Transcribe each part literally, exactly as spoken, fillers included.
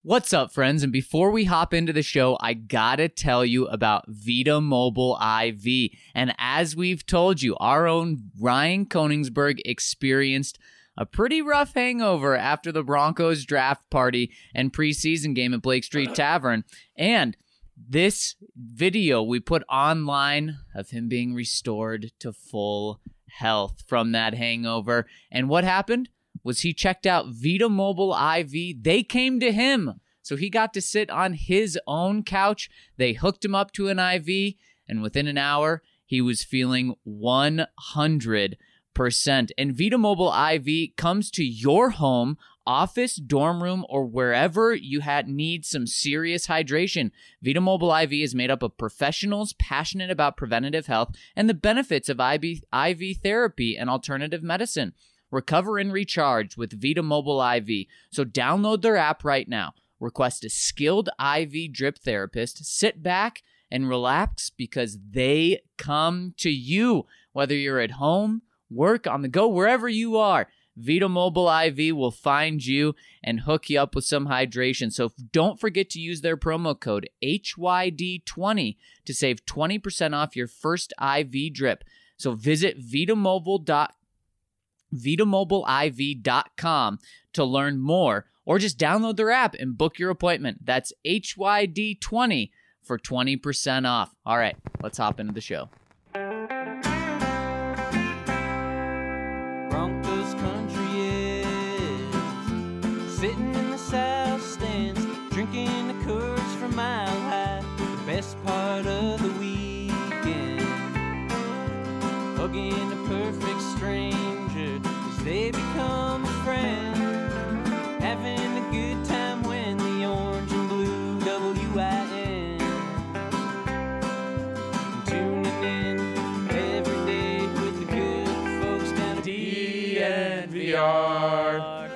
What's up, friends? And before we hop into the show, I gotta tell you about Vita Mobile I V. And as we've told you, our own Ryan Koenigsberg experienced a pretty rough hangover after the Broncos draft party and preseason game at Blake Street Tavern. And this video we put online of him being restored to full health from that hangover. And what happened was he checked out Vita Mobile I V. They came to him. So he got to sit on his own couch. They hooked him up to an I V, and within an hour, he was feeling one hundred percent. And Vita Mobile I V comes to your home, office, dorm room, or wherever you had need some serious hydration. Vita Mobile I V is made up of professionals passionate about preventative health and the benefits of I V, I V therapy and alternative medicine. Recover and recharge with Vita Mobile I V. So download their app right now. Request a skilled I V drip therapist. Sit back and relax because they come to you. Whether you're at home, work, on the go, wherever you are, Vita Mobile I V will find you and hook you up with some hydration. So don't forget to use their promo code H Y D twenty to save twenty percent off your first I V drip. So visit vitamobile dot com. vita mobile I V dot com to learn more, or just download their app and book your appointment. That's H Y D twenty for twenty percent off. All right, let's hop into the show. Broncos country is sitting in the south stands, drinking the Coors from Mile High, the best part of the weekend, hugging a perfect stranger. They become a friend, having a good time when the orange and blue W I N, tuning in every day with the good folks down at D N V R.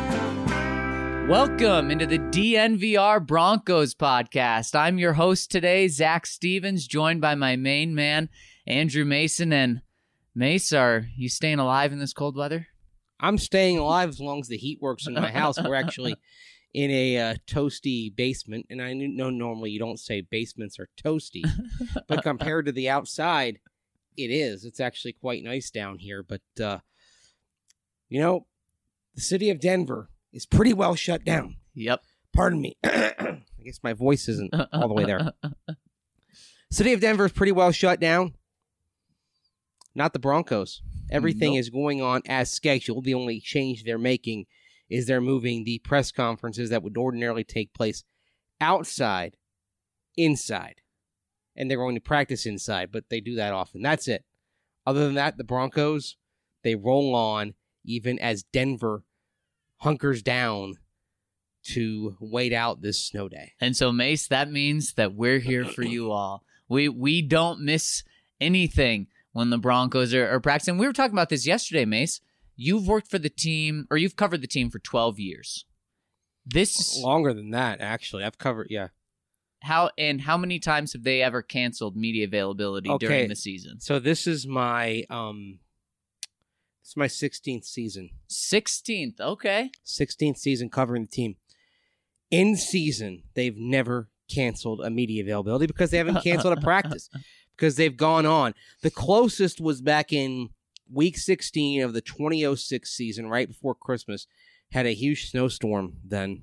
Welcome into the D N V R Broncos podcast. I'm your host today, Zach Stevens, joined by my main man, Andrew Mason. And Mace, are you staying alive in this cold weather? I'm staying alive as long as the heat works in my house. We're actually in a uh, toasty basement, and I know normally you don't say basements are toasty, but compared to the outside, it is. It's actually quite nice down here, but, uh, you know, the city of Denver is pretty well shut down. Yep. Pardon me. I guess my voice isn't all the way there. City of Denver is pretty well shut down. Not the Broncos. Everything nope. is going on as scheduled. The only change they're making is they're moving the press conferences that would ordinarily take place outside, inside. And they're going to practice inside, but they do that often. That's it. Other than that, the Broncos, they roll on even as Denver hunkers down to wait out this snow day. And so, Mace, that means that we're here for you all. We, we don't miss anything when the Broncos are, are practicing. We were talking about this yesterday, Mace. You've worked for the team, or you've covered the team for twelve years. This longer than that, actually. I've covered, yeah. How and how many times have they ever canceled media availability okay, during the season? So this is my um, this is my sixteenth season. Sixteenth, okay. Sixteenth season covering the team. In season, they've never canceled a media availability because they haven't canceled a practice. Because they've gone on. The closest was back in week sixteen of the twenty oh six season, right before Christmas. Had a huge snowstorm then.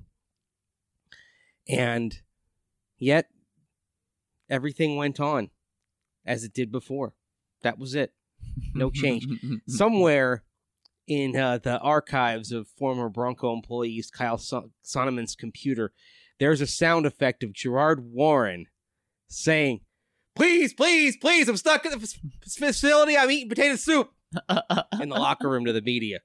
And yet, everything went on as it did before. That was it. No change. Somewhere in uh, the archives of former Bronco employees Kyle Son- Sonneman's computer, there's a sound effect of Gerard Warren saying, Please, please, please, I'm stuck in the f- facility. I'm eating potato soup. In the locker room to the media.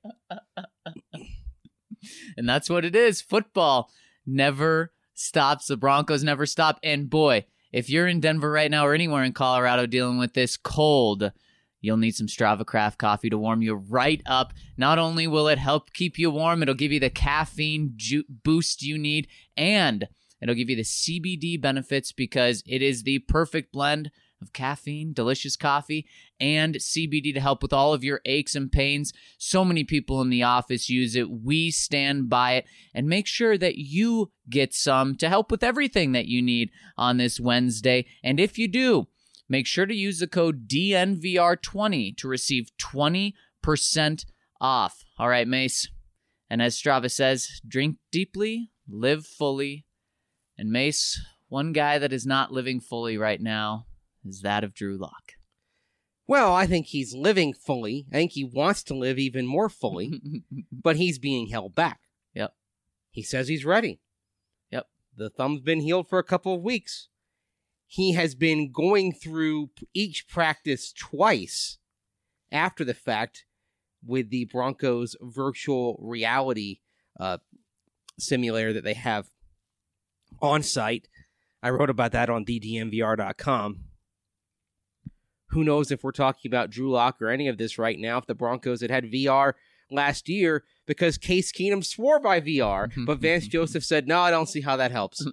And that's what it is. Football never stops. The Broncos never stop. And boy, if you're in Denver right now or anywhere in Colorado dealing with this cold, you'll need some Strava Craft coffee to warm you right up. Not only will it help keep you warm, it'll give you the caffeine ju- boost you need, and it'll give you the C B D benefits because it is the perfect blend of caffeine, delicious coffee, and C B D to help with all of your aches and pains. So many people in the office use it. We stand by it, and make sure that you get some to help with everything that you need on this Wednesday. And if you do, make sure to use the code D N V R twenty to receive twenty percent off. All right, Mace. And as Strava says, drink deeply, live fully. And Mace, one guy that is not living fully right now is that of Drew Lock. Well, I think he's living fully. I think he wants to live even more fully, but he's being held back. Yep. He says he's ready. Yep. The thumb's been healed for a couple of weeks. He has been going through each practice twice after the fact with the Broncos virtual reality uh, simulator that they have on site. I wrote about that on D D N V R dot com. Who knows if we're talking about Drew Lock or any of this right now, if the Broncos had had V R last year, because Case Keenum swore by V R, but Vance Joseph said, no, I don't see how that helps.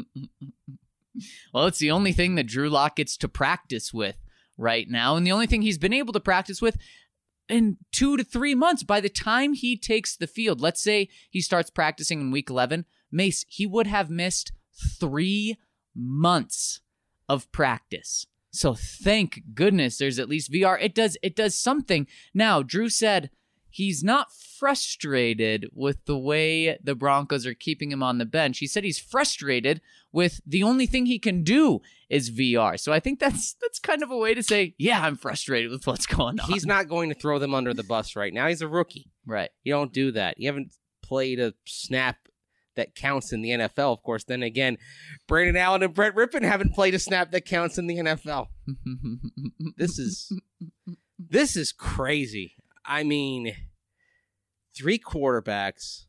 Well, it's the only thing that Drew Lock gets to practice with right now, and the only thing he's been able to practice with in two to three months. By the time he takes the field, let's say he starts practicing in week eleven, Mace, he would have missed three months of practice. So thank goodness there's at least V R. It does it does something. Now, Drew said he's not frustrated with the way the Broncos are keeping him on the bench. He said he's frustrated with the only thing he can do is V R. So I think that's that's kind of a way to say, yeah, I'm frustrated with what's going on. He's not going to throw them under the bus right now. He's a rookie. Right. You don't do that. You haven't played a snap that counts in the N F L. Of course, then again, Brandon Allen and Brett Rippon haven't played a snap that counts in the N F L. This is this is crazy. I mean, three quarterbacks,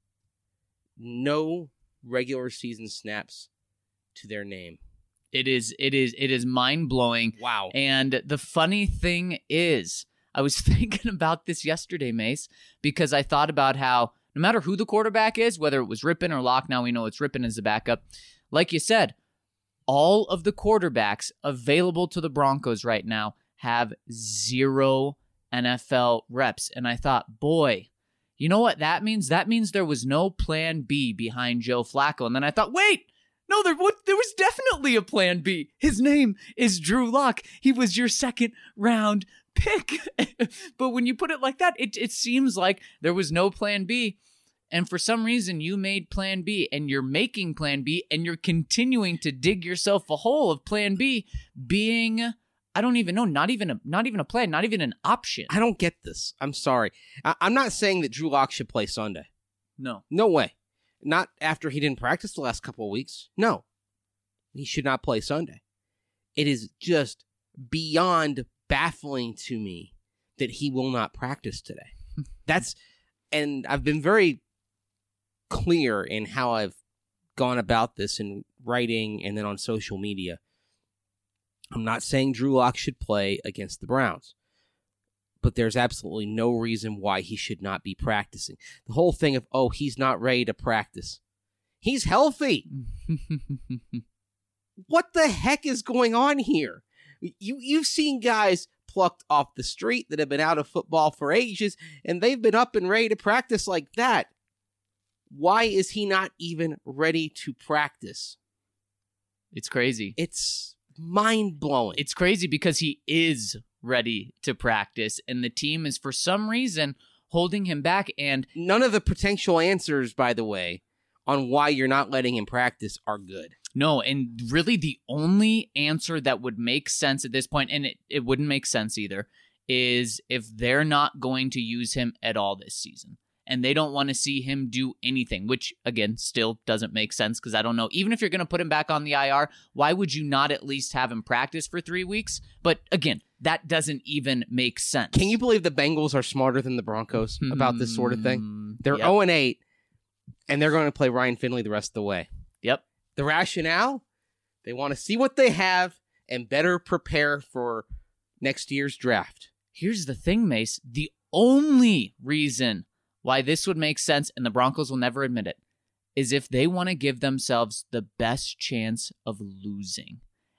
no regular season snaps to their name. It is it is it is mind-blowing. Wow. And the funny thing is, I was thinking about this yesterday, Mace, because I thought about how no matter who the quarterback is, whether it was Rippon or Lock, now we know it's Rippon as the backup. Like you said, all of the quarterbacks available to the Broncos right now have zero N F L reps. And I thought, boy, you know what that means? That means there was no plan B behind Joe Flacco. And then I thought, wait, no, there, what, there was definitely a plan B. His name is Drew Lock. He was your second round pick. But when you put it like that, it, it seems like there was no plan B. And for some reason, you made plan B, and you're making plan B, and you're continuing to dig yourself a hole of plan B being, I don't even know, not even a, not even a plan, not even an option. I don't get this. I'm sorry. I- I'm not saying that Drew Lock should play Sunday. No. No way. Not after he didn't practice the last couple of weeks. No. He should not play Sunday. It is just beyond baffling to me that he will not practice today. That's, and I've been very clear in how I've gone about this in writing and then on social media. I'm not saying Drew Lock should play against the Browns, but there's absolutely no reason why he should not be practicing. The whole thing of, oh, he's not ready to practice. He's healthy. What the heck is going on here? You, you've seen guys plucked off the street that have been out of football for ages, and they've been up and ready to practice like that. Why is he not even ready to practice? It's crazy. It's mind-blowing. It's crazy because he is ready to practice, and the team is, for some reason, holding him back. And none of the potential answers, by the way, on why you're not letting him practice are good. No, and really the only answer that would make sense at this point, and it, it wouldn't make sense either, is if they're not going to use him at all this season. And they don't want to see him do anything, which, again, still doesn't make sense because I don't know. Even if you're going to put him back on the I R, why would you not at least have him practice for three weeks? But, again, that doesn't even make sense. Can you believe the Bengals are smarter than the Broncos about this sort of thing? They're yep. oh and eight, and they're going to play Ryan Finley the rest of the way. Yep. The rationale? They want to see what they have and better prepare for next year's draft. Here's the thing, Mace. The only reason why this would make sense, and the Broncos will never admit it, is if they want to give themselves the best chance of losing.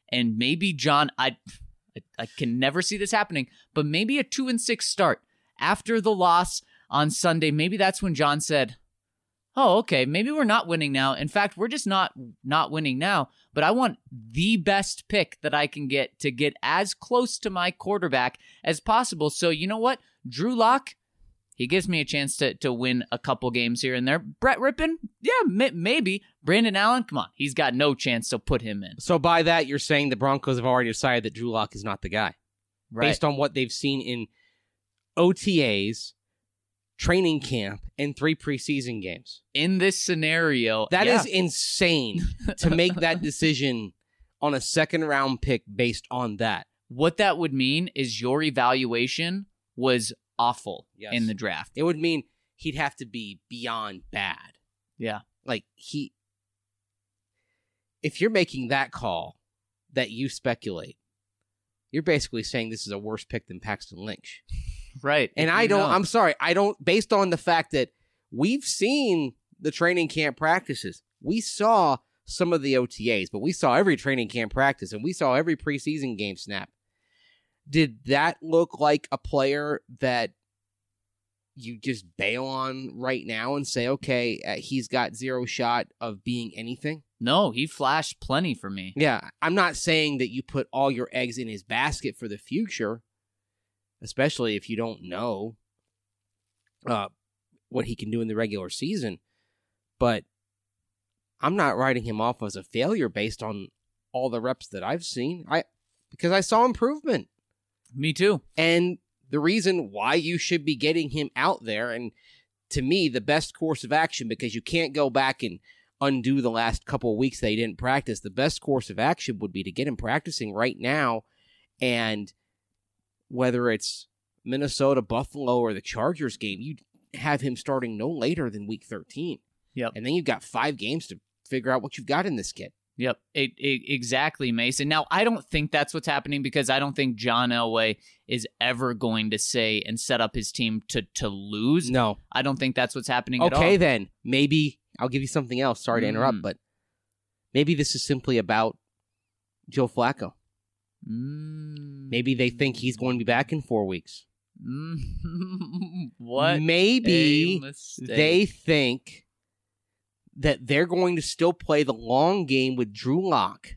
and maybe John, I, I, I can never see this happening, but maybe a two and six start after the loss on Sunday. Maybe that's when John said, oh, okay, maybe we're not winning now. In fact, we're just not not winning now, but I want the best pick that I can get to get as close to my quarterback as possible. So you know what? Drew Lock, he gives me a chance to, to win a couple games here and there. Brett Rippon, yeah, may, maybe. Brandon Allen, come on, he's got no chance, so put him in. So by that, you're saying the Broncos have already decided that Drew Lock is not the guy. Right. Based on what they've seen in O T As, training camp, and three preseason games. In this scenario, that yeah. is insane to make that decision on a second round pick based on that. What that would mean is your evaluation was awful Yes. in the draft. It would mean he'd have to be beyond bad. Yeah. Like he, if you're making that call that you speculate, you're basically saying this is a worse pick than Paxton Lynch. Right. And If I you don't, know. I'm sorry, I don't, based on the fact that we've seen the training camp practices, we saw some of the O T As, but we saw every training camp practice and we saw every preseason game snap. Did that look like a player that you just bail on right now and say, okay, uh, he's got zero shot of being anything? No, he flashed plenty for me. Yeah, I'm not saying that you put all your eggs in his basket for the future, especially if you don't know uh, what he can do in the regular season. But I'm not writing him off as a failure based on all the reps that I've seen. I because I saw improvement. Me too. And the reason why you should be getting him out there, and to me, the best course of action, because you can't go back and undo the last couple of weeks that he didn't practice, the best course of action would be to get him practicing right now, and whether it's Minnesota, Buffalo, or the Chargers game, you have him starting no later than week thirteen. Yep. And then you've got five games to figure out what you've got in this kid. Yep, it, it, exactly, Mason. Now, I don't think that's what's happening because I don't think John Elway is ever going to say and set up his team to, to lose. No. I don't think that's what's happening at all. Okay, then. Maybe I'll give you something else. Sorry to interrupt, Mm. but maybe this is simply about Joe Flacco. Mm. Maybe they think he's going to be back in four weeks. Mm. What Maybe a mistake. they think that they're going to still play the long game with Drew Lock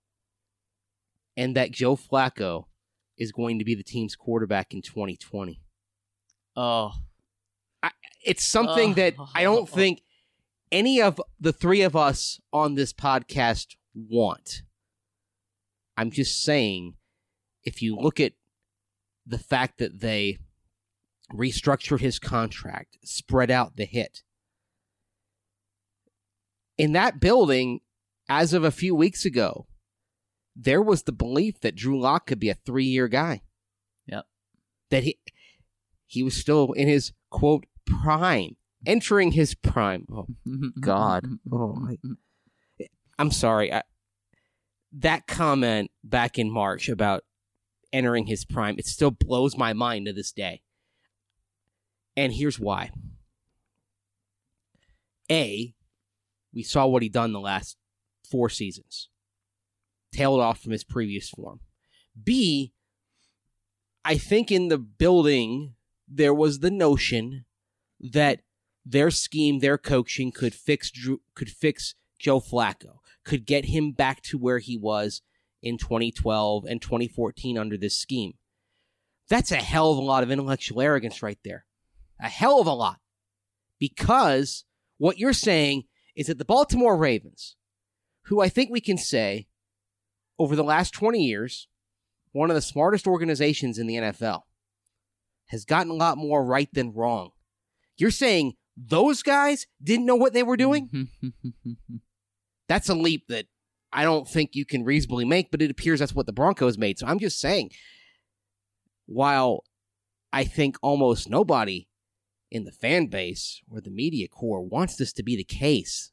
and that Joe Flacco is going to be the team's quarterback in twenty twenty. Oh. I, it's something Oh. that I don't think any of the three of us on this podcast want. I'm just saying, if you look at the fact that they restructured his contract, spread out the hit, in that building, as of a few weeks ago, there was the belief that Drew Lock could be a three-year guy. Yep. That he he was still in his, quote, prime, entering his prime. Oh, God. Oh, I, I'm sorry. I, that comment back in March about entering his prime, it still blows my mind to this day. And here's why. A, we saw what he'd done the last four seasons. Tailed off from his previous form. B, I think in the building there was the notion that their scheme, their coaching could fix Drew, could fix Joe Flacco, could get him back to where he was in twenty twelve and twenty fourteen under this scheme. That's a hell of a lot of intellectual arrogance right there. A hell of a lot. Because what you're saying is that the Baltimore Ravens, who I think we can say, over the last twenty years, one of the smartest organizations in the N F L, has gotten a lot more right than wrong. You're saying those guys didn't know what they were doing? That's a leap that I don't think you can reasonably make, but it appears that's what the Broncos made. So I'm just saying, while I think almost nobody in the fan base or the media core wants this to be the case,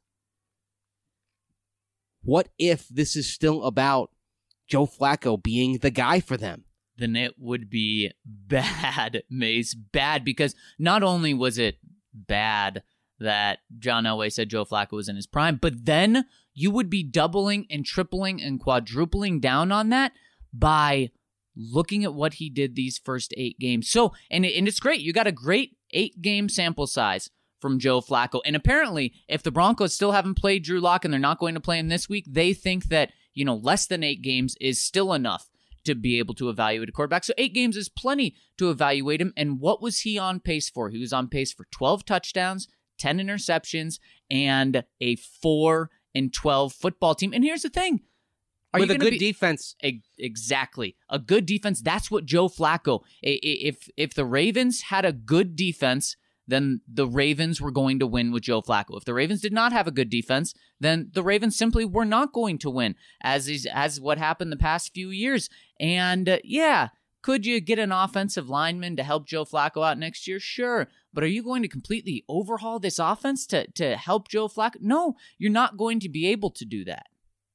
what if this is still about Joe Flacco being the guy for them? Then it would be bad, Mace. Bad, because not only was it bad that John Elway said Joe Flacco was in his prime, but then you would be doubling and tripling and quadrupling down on that by looking at what he did these first eight games. So, and, and it's great. You got a great eight-game sample size from Joe Flacco. And apparently, if the Broncos still haven't played Drew Lock and they're not going to play him this week, they think that, you know, less than eight games is still enough to be able to evaluate a quarterback. So eight games is plenty to evaluate him. And what was he on pace for? He was on pace for twelve touchdowns, ten interceptions, and a four and twelve football team. And here's the thing. Are With you a good be, defense. A, exactly. A good defense. That's what Joe Flacco. If if the Ravens had a good defense, then the Ravens were going to win with Joe Flacco. If the Ravens did not have a good defense, then the Ravens simply were not going to win, as is as what happened the past few years. And uh, yeah, could you get an offensive lineman to help Joe Flacco out next year? Sure. But are you going to completely overhaul this offense to, to help Joe Flacco? No, you're not going to be able to do that.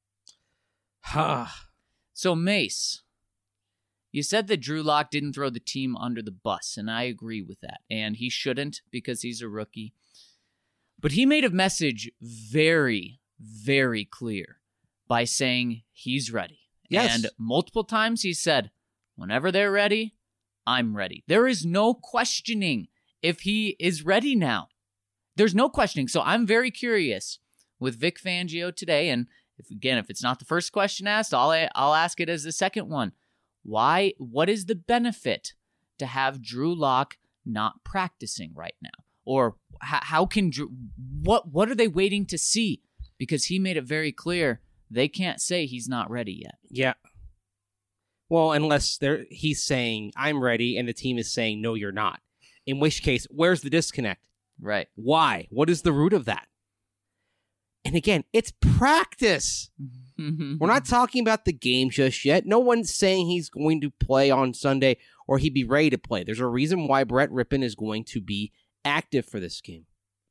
So, Mace, you said that Drew Lock didn't throw the team under the bus, and I agree with that. And he shouldn't because he's a rookie. But he made a message very, very clear by saying he's ready. Yes. And multiple times he said, whenever they're ready, I'm ready. There is no questioning if he is ready now. There's no questioning. So I'm very curious with Vic Fangio today, and if again, if it's not the first question asked, I'll I'll ask it as the second one. Why? What is the benefit to have Drew Lock not practicing right now? Or how, how can Drew, what what are they waiting to see? Because he made it very clear they can't say he's not ready yet. Yeah. Well, unless they're he's saying I'm ready and the team is saying no, you're not. In which case, where's the disconnect? Right. Why? What is the root of that? And again, it's practice. We're not talking about the game just yet. No one's saying he's going to play on Sunday or he'd be ready to play. There's a reason why Brett Rippon is going to be active for this game.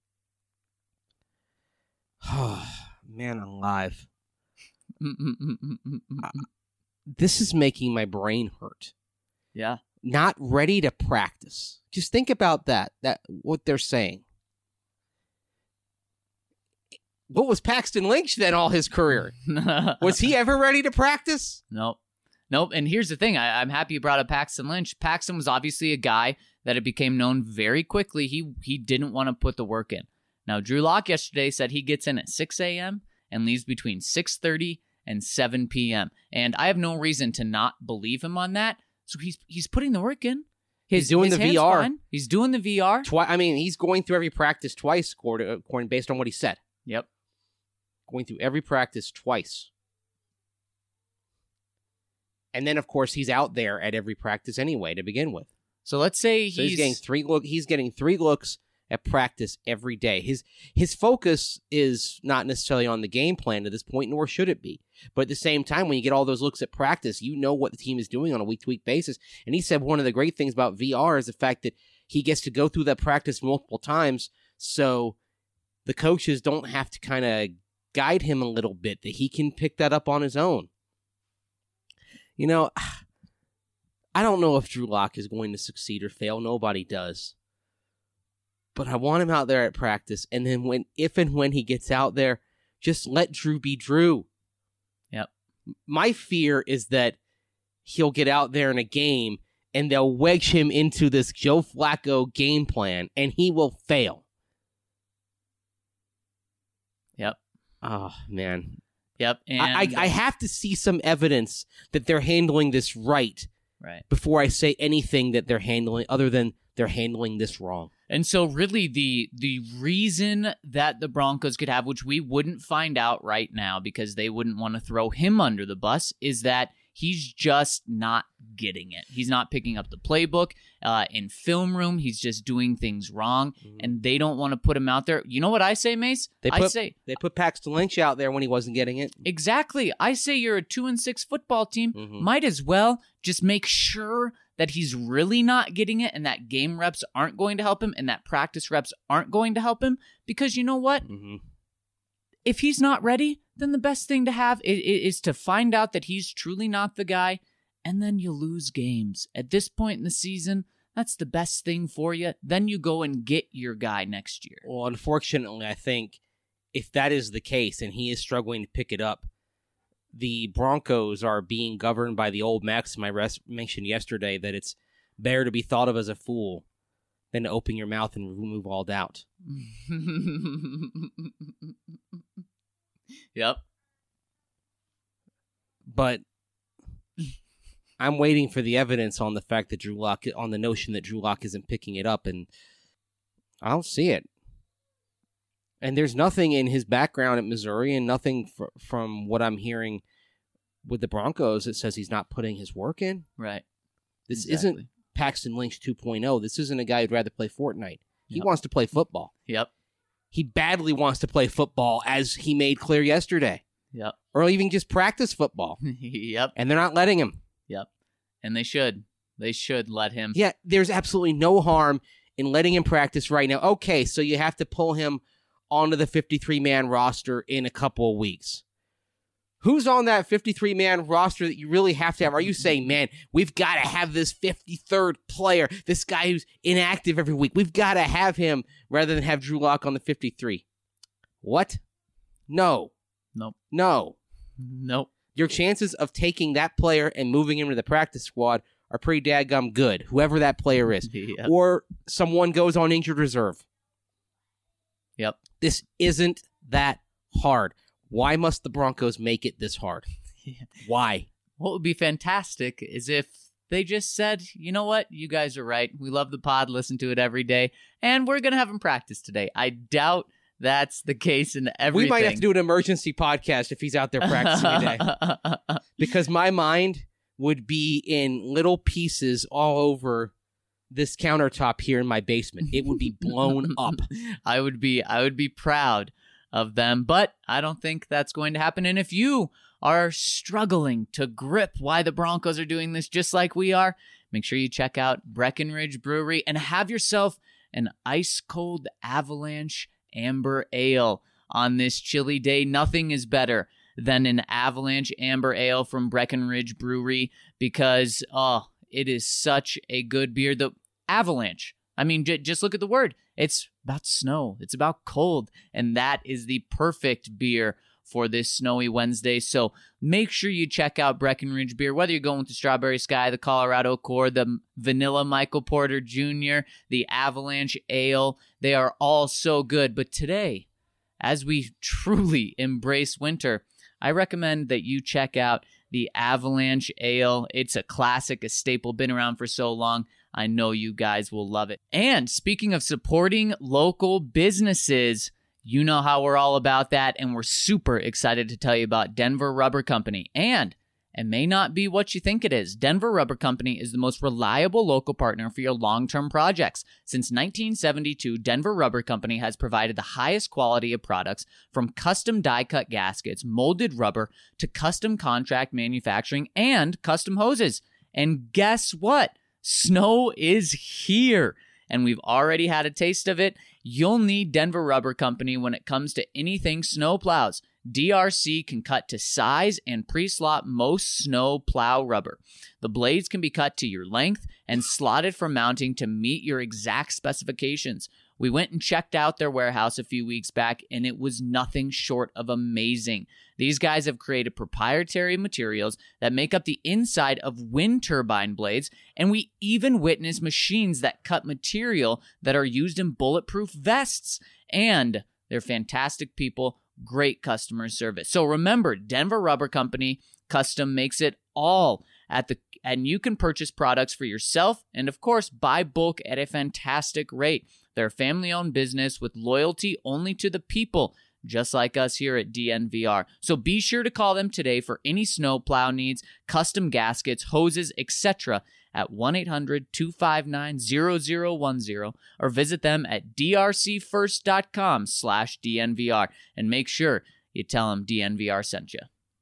Man alive. uh, this is making my brain hurt. Yeah. Not ready to practice. Just think about that. That what they're saying. What was Paxton Lynch then all his career? Was he ever ready to practice? Nope. Nope. And here's the thing. I, I'm happy you brought up Paxton Lynch. Paxton was obviously a guy that it became known very quickly. He he didn't want to put the work in. Now, Drew Lock yesterday said he gets in at six a.m. and leaves between six thirty and seven p.m. And I have no reason to not believe him on that. So he's he's putting the work in. His, he's doing his the V R. Fine. He's doing the V R. Twi- I mean, he's going through every practice twice, according based on what he said. Yep. Going through every practice twice. And then, of course, he's out there at every practice anyway to begin with. So let's say so he's... he's getting three look. He's getting three looks at practice every day. His his focus is not necessarily on the game plan at this point, nor should it be. But at the same time, when you get all those looks at practice, you know what the team is doing on a week-to-week basis. And he said one of the great things about V R is the fact that he gets to go through that practice multiple times, so the coaches don't have to kind of guide him a little bit, that he can pick that up on his own. You know, I don't know if Drew Lock is going to succeed or fail. Nobody does. But I want him out there at practice, and then when, if and when he gets out there, just let Drew be Drew. Yep. My fear is that he'll get out there in a game, and they'll wedge him into this Joe Flacco game plan, and he will fail. Yep. Oh, man. Yep. And I, I, I have to see some evidence that they're handling this right, right before I say anything that they're handling other than they're handling this wrong. And so really the the reason that the Broncos could have, which we wouldn't find out right now because they wouldn't want to throw him under the bus, is that he's just not getting it. He's not picking up the playbook. Uh, in film room, he's just doing things wrong, mm-hmm. and they don't want to put him out there. You know what I say, Mace? They put, I say they put Paxton Lynch out there when he wasn't getting it. Exactly. I say you're a two and six football team. Mm-hmm. Might as well just make sure that he's really not getting it, and that game reps aren't going to help him, and that practice reps aren't going to help him. Because you know what? Mm-hmm. If he's not ready, then the best thing to have is, is to find out that he's truly not the guy, and then you lose games. At this point in the season, that's the best thing for you. Then you go and get your guy next year. Well, unfortunately, I think if that is the case and he is struggling to pick it up, the Broncos are being governed by the old maxim I res- mentioned yesterday that it's better to be thought of as a fool than to open your mouth and remove all doubt. Yep. But I'm waiting for the evidence on the fact that Drew Lock, on the notion that Drew Lock isn't picking it up, and I don't see it. And there's nothing in his background at Missouri and nothing fr- from what I'm hearing with the Broncos that says he's not putting his work in. Right. This Exactly. isn't Paxton Lynch two point oh. This isn't a guy who'd rather play Fortnite. He Yep. wants to play football. Yep. He badly wants to play football, as he made clear yesterday. Yep. Or even just practice football. Yep. And they're not letting him. Yep. And they should. They should let him. Yeah, there's absolutely no harm in letting him practice right now. Okay, so you have to pull him onto the fifty-three man roster in a couple of weeks. Who's on that fifty-three man roster that you really have to have? Are you saying, man, we've got to have this fifty-third player, this guy who's inactive every week, we've got to have him rather than have Drew Lock on the fifty-three? What? No. Nope. No. Nope. Your chances of taking that player and moving him to the practice squad are pretty dadgum good, whoever that player is. Yep. Or someone goes on injured reserve. Yep. This isn't that hard. Why must the Broncos make it this hard? Yeah. Why? What would be fantastic is if they just said, you know what, you guys are right. We love the pod, listen to it every day, and we're going to have him practice today. I doubt that's the case in everything. We might have to do an emergency podcast if he's out there practicing today. Because my mind would be in little pieces all over this countertop here in my basement. It would be blown up. I would be I would be proud of them, but I don't think that's going to happen. And if you are struggling to grip why the Broncos are doing this just like we are, make sure you check out Breckenridge Brewery and have yourself an ice-cold Avalanche Amber Ale on this chilly day. Nothing is better than an Avalanche Amber Ale from Breckenridge Brewery because, oh, it is such a good beer. The Avalanche, I mean, j- just look at the word. It's about snow. It's about cold. And that is the perfect beer for this snowy Wednesday. So make sure you check out Breckenridge Beer, whether you're going with the Strawberry Sky, the Colorado Core, the Vanilla Michael Porter Junior, the Avalanche Ale. They are all so good. But today, as we truly embrace winter, I recommend that you check out the Avalanche Ale. It's a classic, a staple, been around for so long. I know you guys will love it. And speaking of supporting local businesses, you know how we're all about that, and we're super excited to tell you about Denver Rubber Company. And it may not be what you think it is. Denver Rubber Company is the most reliable local partner for your long-term projects. Since nineteen seventy-two, Denver Rubber Company has provided the highest quality of products, from custom die-cut gaskets, molded rubber, to custom contract manufacturing and custom hoses. And guess what? Snow is here, and we've already had a taste of it. You'll need Denver Rubber Company when it comes to anything snow plows. D R C can cut to size and pre-slot most snow plow rubber. The blades can be cut to your length and slotted for mounting to meet your exact specifications. We went and checked out their warehouse a few weeks back, and it was nothing short of amazing. These guys have created proprietary materials that make up the inside of wind turbine blades, and we even witnessed machines that cut material that are used in bulletproof vests. And they're fantastic people, great customer service. So remember, Denver Rubber Company Custom makes it all at the and you can purchase products for yourself and, of course, buy bulk at a fantastic rate. They're a family-owned business with loyalty only to the people, just like us here at D N V R. So be sure to call them today for any snow plow needs, custom gaskets, hoses, et cetera at one eight hundred two five nine zero zero one zero or visit them at drcfirst.com slash DNVR and make sure you tell them D N V R sent you.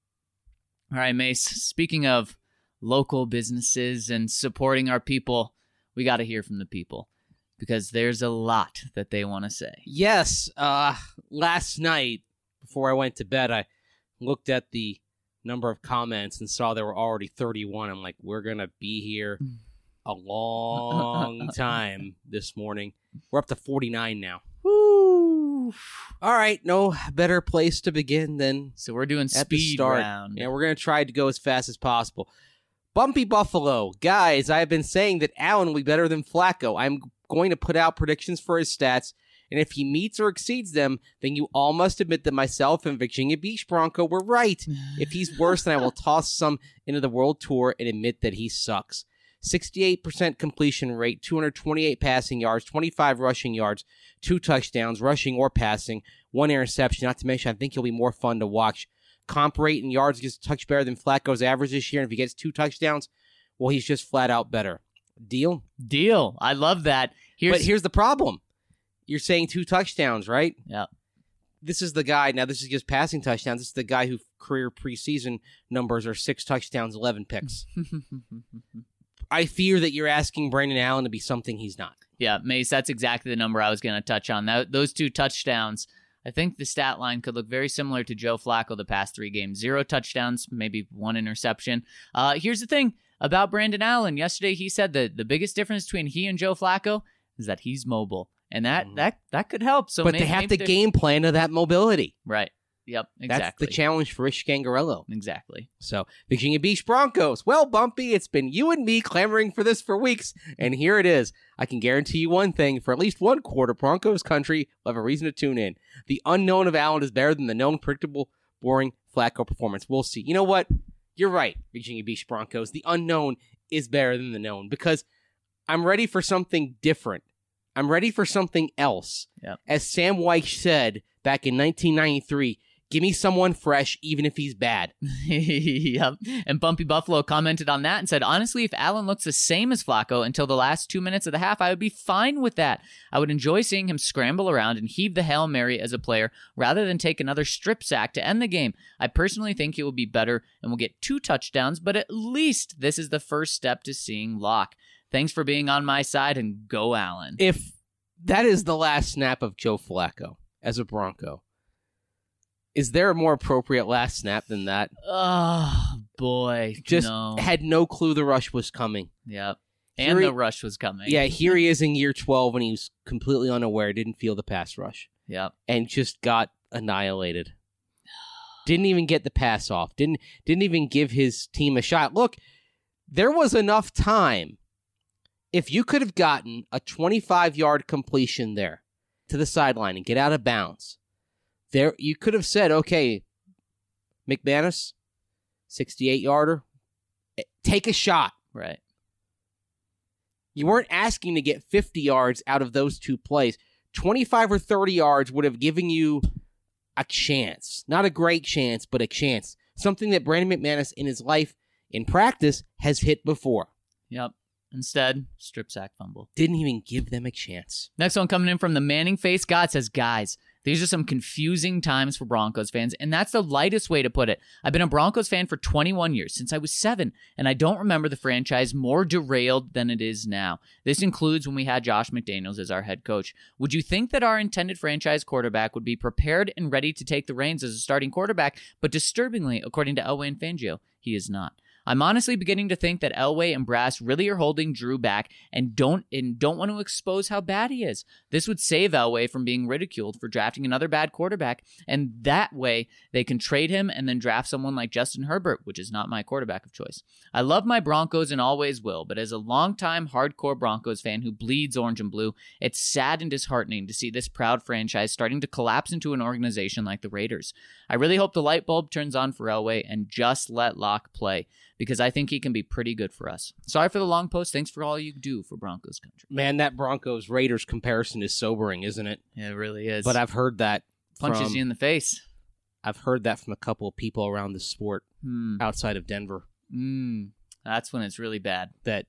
All right, Mace, speaking of local businesses and supporting our people, we got to hear from the people, because there's a lot that they want to say. Yes, uh, last night, before I went to bed, I looked at the number of comments and saw there were already thirty-one. I'm like, we're going to be here a long time this morning. We're up to forty-nine now. Woo! Oof. All right, no better place to begin than So we're doing at the speed start. round. Yeah, we're going to try to go as fast as possible. Bumpy Buffalo. Guys, I have been saying that Allen will be better than Flacco. I'm going to put out predictions for his stats, and if he meets or exceeds them, then you all must admit that myself and Virginia Beach Bronco were right. If he's worse, then I will toss some into the World Tour and admit that he sucks. sixty-eight percent completion rate, two hundred twenty-eight passing yards, twenty-five rushing yards, two touchdowns, rushing or passing, one interception. Not to mention, I think he'll be more fun to watch. Comp rate and yards gets a touch better than Flacco's average this year. And if he gets two touchdowns, well, he's just flat out better. Deal? Deal. I love that. Here's, But here's the problem. You're saying two touchdowns, right? Yeah. This is the guy. Now, this is just passing touchdowns. This is the guy whose career preseason numbers are six touchdowns, eleven picks. I fear that you're asking Brandon Allen to be something he's not. Yeah, Mace, that's exactly the number I was going to touch on. That, those two touchdowns, I think the stat line could look very similar to Joe Flacco the past three games. Zero touchdowns, maybe one interception. Uh, here's the thing about Brandon Allen. Yesterday he said that the biggest difference between he and Joe Flacco is that he's mobile. And that Mhm. that that could help. So but maybe, they have maybe to they're- game plan to that mobility. Right. Yep, exactly. That's the challenge for Rich Scangarello. Exactly. So, Virginia Beach Broncos. Well, Bumpy, it's been you and me clamoring for this for weeks, and here it is. I can guarantee you one thing. For at least one quarter, Broncos country will have a reason to tune in. The unknown of Allen is better than the known, predictable, boring Flacco performance. We'll see. You know what? You're right, Virginia Beach Broncos. The unknown is better than the known because I'm ready for something different. I'm ready for something else. Yep. As Sam Wyche said back in nineteen ninety-three, give me someone fresh, even if he's bad. Yep. And Bumpy Buffalo commented on that and said, honestly, if Allen looks the same as Flacco until the last two minutes of the half, I would be fine with that. I would enjoy seeing him scramble around and heave the Hail Mary as a player rather than take another strip sack to end the game. I personally think he will be better and will get two touchdowns, but at least this is the first step to seeing Locke. Thanks for being on my side, and go Allen. If that is the last snap of Joe Flacco as a Bronco, is there a more appropriate last snap than that? Oh, boy. Just no. had no clue the rush was coming. Yep. Here And he- the rush was coming. Yeah, here he is in year twelve and he was completely unaware, didn't feel the pass rush, Yep. and just got annihilated. Didn't even get the pass off. Didn't didn't even give his team a shot. Look, there was enough time. If you could have gotten a twenty-five-yard completion there to the sideline and get out of bounds, there you could have said, okay, McManus, sixty-eight-yarder, take a shot. Right. You weren't asking to get fifty yards out of those two plays. twenty-five or thirty yards would have given you a chance. Not a great chance, but a chance. Something that Brandon McManus in his life, in practice, has hit before. Yep. Instead, strip sack fumble. Didn't even give them a chance. Next one coming in from the Manning Face God says, guys, these are some confusing times for Broncos fans, and that's the lightest way to put it. I've been a Broncos fan for twenty-one years, since I was seven, and I don't remember the franchise more derailed than it is now. This includes when we had Josh McDaniels as our head coach. Would you think that our intended franchise quarterback would be prepared and ready to take the reins as a starting quarterback, but disturbingly, according to Elway and Fangio, he is not. I'm honestly beginning to think that Elway and Brass really are holding Drew back and don't and don't want to expose how bad he is. This would save Elway from being ridiculed for drafting another bad quarterback, and that way they can trade him and then draft someone like Justin Herbert, which is not my quarterback of choice. I love my Broncos and always will, but as a longtime hardcore Broncos fan who bleeds orange and blue, it's sad and disheartening to see this proud franchise starting to collapse into an organization like the Raiders. I really hope the light bulb turns on for Elway and just let Locke play, because I think he can be pretty good for us. Sorry for the long post. Thanks for all you do for Broncos country. Man, that Broncos-Raiders comparison is sobering, isn't it? Yeah, it really is. But I've heard that Punches from, you in the face. I've heard that from a couple of people around the sport Hmm. outside of Denver, Mm. That's when it's really bad. that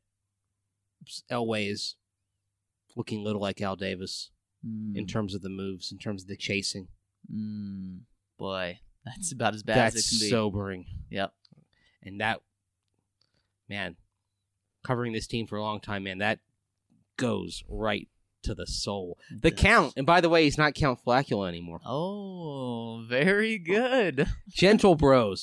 Elway is looking a little like Al Davis Mm. in terms of the moves, in terms of the chasing. Mm. Boy, that's about as bad That's as it can be. sobering. Yep. And that, man, covering this team for a long time, man, that goes right to the soul. It The does. Count, and by the way, he's not Count Flacula anymore. Oh, very good. Gentle Bros.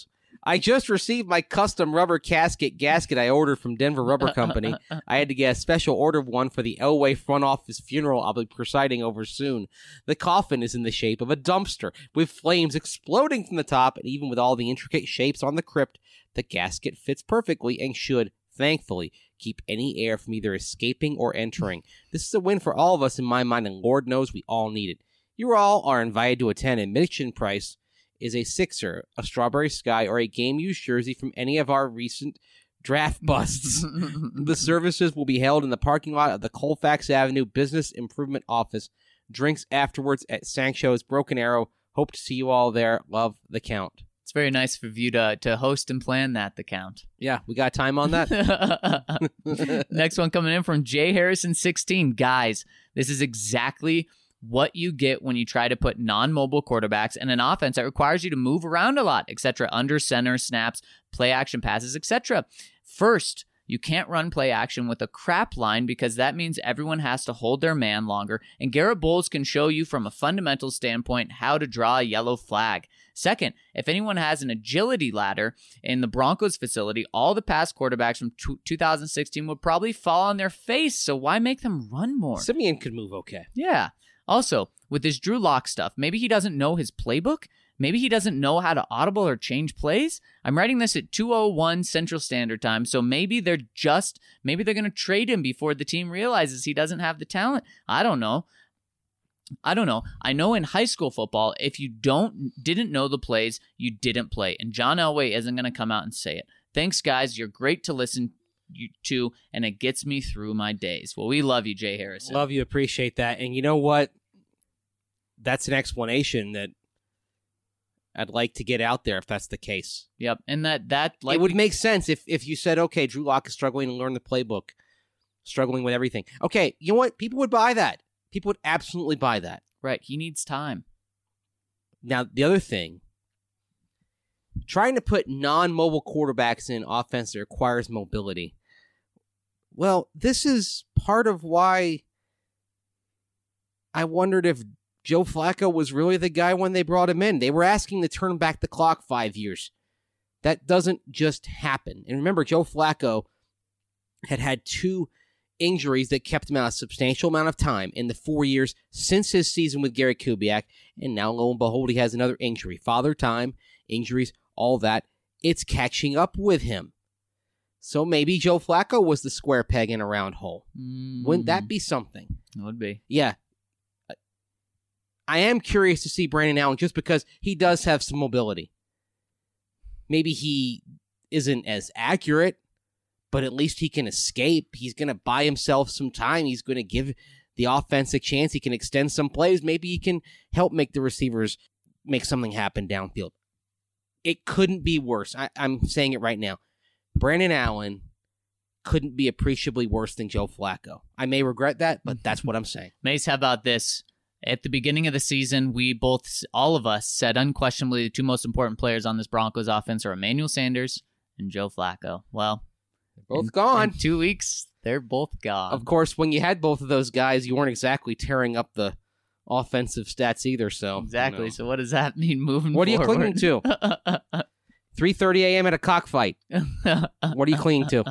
I just received my custom rubber casket gasket I ordered from Denver Rubber Company. I had to get a special order of one for the Elway front office funeral I'll be presiding over soon. The coffin is in the shape of a dumpster, with flames exploding from the top, and even with all the intricate shapes on the crypt, the gasket fits perfectly and should, thankfully, keep any air from either escaping or entering. This is a win for all of us in my mind, and Lord knows we all need it. You all are invited to attend. Admission price is a Sixer, a Strawberry Sky, or a game-used jersey from any of our recent draft busts. The services will be held in the parking lot of the Colfax Avenue Business Improvement Office. Drinks afterwards at Sancho's Broken Arrow. Hope to see you all there. Love, the Count. It's very nice of you to, to host and plan that, the Count. Yeah, we got time on that. Next one coming in from Jay Harrison sixteen. Guys, this is exactly what you get when you try to put non-mobile quarterbacks in an offense that requires you to move around a lot, et cetera, under center, snaps, play action passes, et cetera. First, you can't run play action with a crap line because that means everyone has to hold their man longer, and Garrett Bowles can show you from a fundamental standpoint how to draw a yellow flag. Second, if anyone has an agility ladder in the Broncos facility, all the past quarterbacks from two thousand sixteen would probably fall on their face, so why make them run more? Simeon could move okay. Yeah. Also, with this Drew Lock stuff, maybe he doesn't know his playbook. Maybe he doesn't know how to audible or change plays. I'm writing this at two oh one Central Standard Time, so maybe they're just, maybe they're going to trade him before the team realizes he doesn't have the talent. I don't know. I don't know. I know in high school football, if you don't didn't know the plays, you didn't play. And John Elway isn't going to come out and say it. Thanks, guys. You're great to listen to, and it gets me through my days. Well, we love you, Jay Harrison. Love you. Appreciate that. And you know what? That's an explanation that I'd like to get out there if that's the case. Yep. And that, that like it would make sense if, if you said, okay, Drew Lock is struggling to learn the playbook, struggling with everything. Okay, you know what? People would buy that. People would absolutely buy that. Right. He needs time. Now, the other thing, trying to put non-mobile quarterbacks in offense that requires mobility. Well, this is part of why I wondered if Joe Flacco was really the guy when they brought him in. They were asking to turn back the clock five years. That doesn't just happen. And remember, Joe Flacco had had two injuries that kept him out a substantial amount of time in the four years since his season with Gary Kubiak. And now, lo and behold, he has another injury. Father time, injuries, all that. It's catching up with him. So maybe Joe Flacco was the square peg in a round hole. Mm. Wouldn't that be something? It would be. Yeah. I am curious to see Brandon Allen just because he does have some mobility. Maybe he isn't as accurate, but at least he can escape. He's going to buy himself some time. He's going to give the offense a chance. He can extend some plays. Maybe he can help make the receivers make something happen downfield. It couldn't be worse. I, I'm saying it right now. Brandon Allen couldn't be appreciably worse than Joe Flacco. I may regret that, but that's what I'm saying. Mace, how about this? At the beginning of the season, we both, all of us, said unquestionably the two most important players on this Broncos offense are Emmanuel Sanders and Joe Flacco. Well, they're both in, gone. In two weeks, they're both gone. Of course, when you had both of those guys, you weren't exactly tearing up the offensive stats either. So exactly. You know. So what does that mean moving what forward? What are you clinging to? three thirty a.m. at a cockfight. What are you clinging to?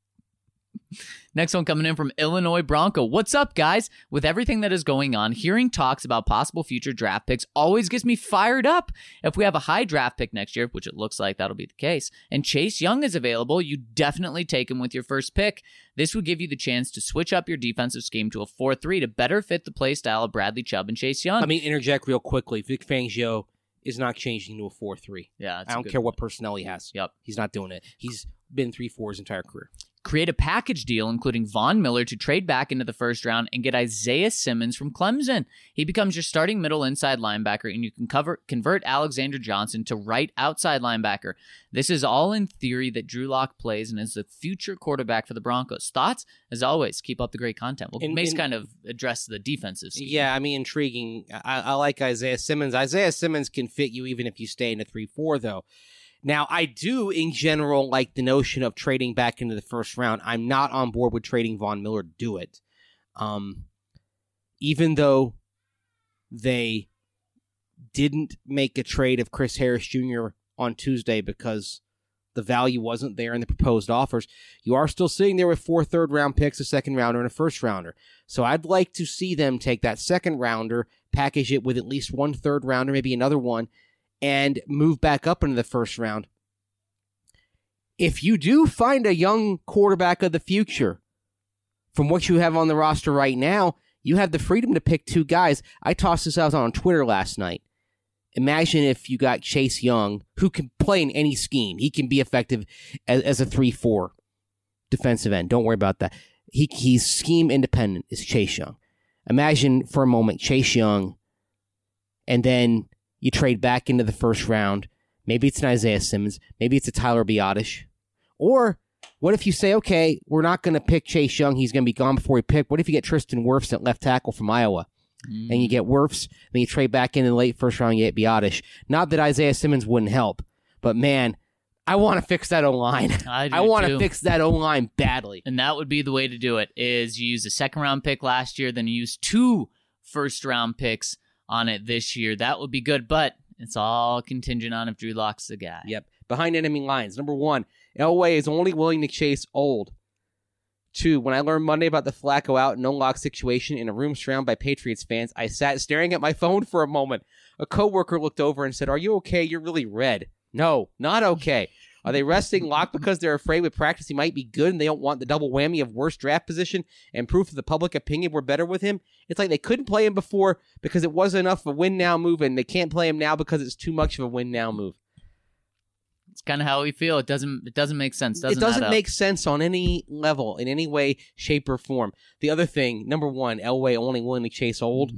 Next one coming in from Illinois Bronco. What's up, guys? With everything that is going on, hearing talks about possible future draft picks always gets me fired up. If we have a high draft pick next year, which it looks like that'll be the case, and Chase Young is available, you definitely take him with your first pick. This would give you the chance to switch up your defensive scheme to a four three to better fit the play style of Bradley Chubb and Chase Young. Let me interject real quickly. Vic Fangio is not changing to a four three. Yeah, I don't care what personnel he has. Yep. He's not doing it. He's been three four his entire career. Create a package deal, including Von Miller, to trade back into the first round and get Isaiah Simmons from Clemson. He becomes your starting middle inside linebacker, and you can cover, convert Alexander Johnson to right outside linebacker. This is all in theory that Drew Lock plays and is the future quarterback for the Broncos. Thoughts? As always, keep up the great content. Well, in, Mace in, kind of addressed the defensive scheme. Yeah, I mean, intriguing. I, I like Isaiah Simmons. Isaiah Simmons can fit you even if you stay in a three four, though. Now, I do, in general, like the notion of trading back into the first round. I'm not on board with trading Von Miller to do it. Um, even though they didn't make a trade of Chris Harris Junior on Tuesday because the value wasn't there in the proposed offers. You are still sitting there with four third-round picks, a second-rounder, and a first-rounder. So I'd like to see them take that second-rounder, package it with at least one third-rounder, maybe another one, and move back up into the first round. If you do find a young quarterback of the future, from what you have on the roster right now, you have the freedom to pick two guys. I tossed this out on Twitter last night. Imagine if you got Chase Young, who can play in any scheme. He can be effective as, as a three four defensive end. Don't worry about that. He He's scheme independent, is Chase Young. Imagine for a moment Chase Young, and then you trade back into the first round. Maybe it's an Isaiah Simmons. Maybe it's a Tyler Biotish. Or what if you say, okay, we're not going to pick Chase Young. He's going to be gone before we pick. What if you get Tristan Wirfs at left tackle from Iowa? Mm. And you get Wirfs, then you trade back in the late first round, you get Biotish. Not that Isaiah Simmons wouldn't help, but man, I want to fix that O-line. I, I want to fix that O-line badly. And that would be the way to do it, is you use a second-round pick last year, then you use two first-round picks on it this year. That would be good, but it's all contingent on if Drew Lock's the guy. Yep. Behind enemy lines. Number one, Elway is only willing to chase old. Two, when I learned Monday about the Flacco out no lock situation in a room surrounded by Patriots fans, I sat staring at my phone for a moment. A coworker looked over and said, "Are you okay? You're really red." No, not okay. Are they resting Lock because they're afraid with practice he might be good and they don't want the double whammy of worst draft position and proof of the public opinion we're better with him? It's like they couldn't play him before because it wasn't enough of a win-now move, and they can't play him now because it's too much of a win-now move. It's kind of how we feel. It doesn't It doesn't make sense. Doesn't it doesn't make sense on any level, in any way, shape, or form. The other thing, number one, Elway only willing to chase old.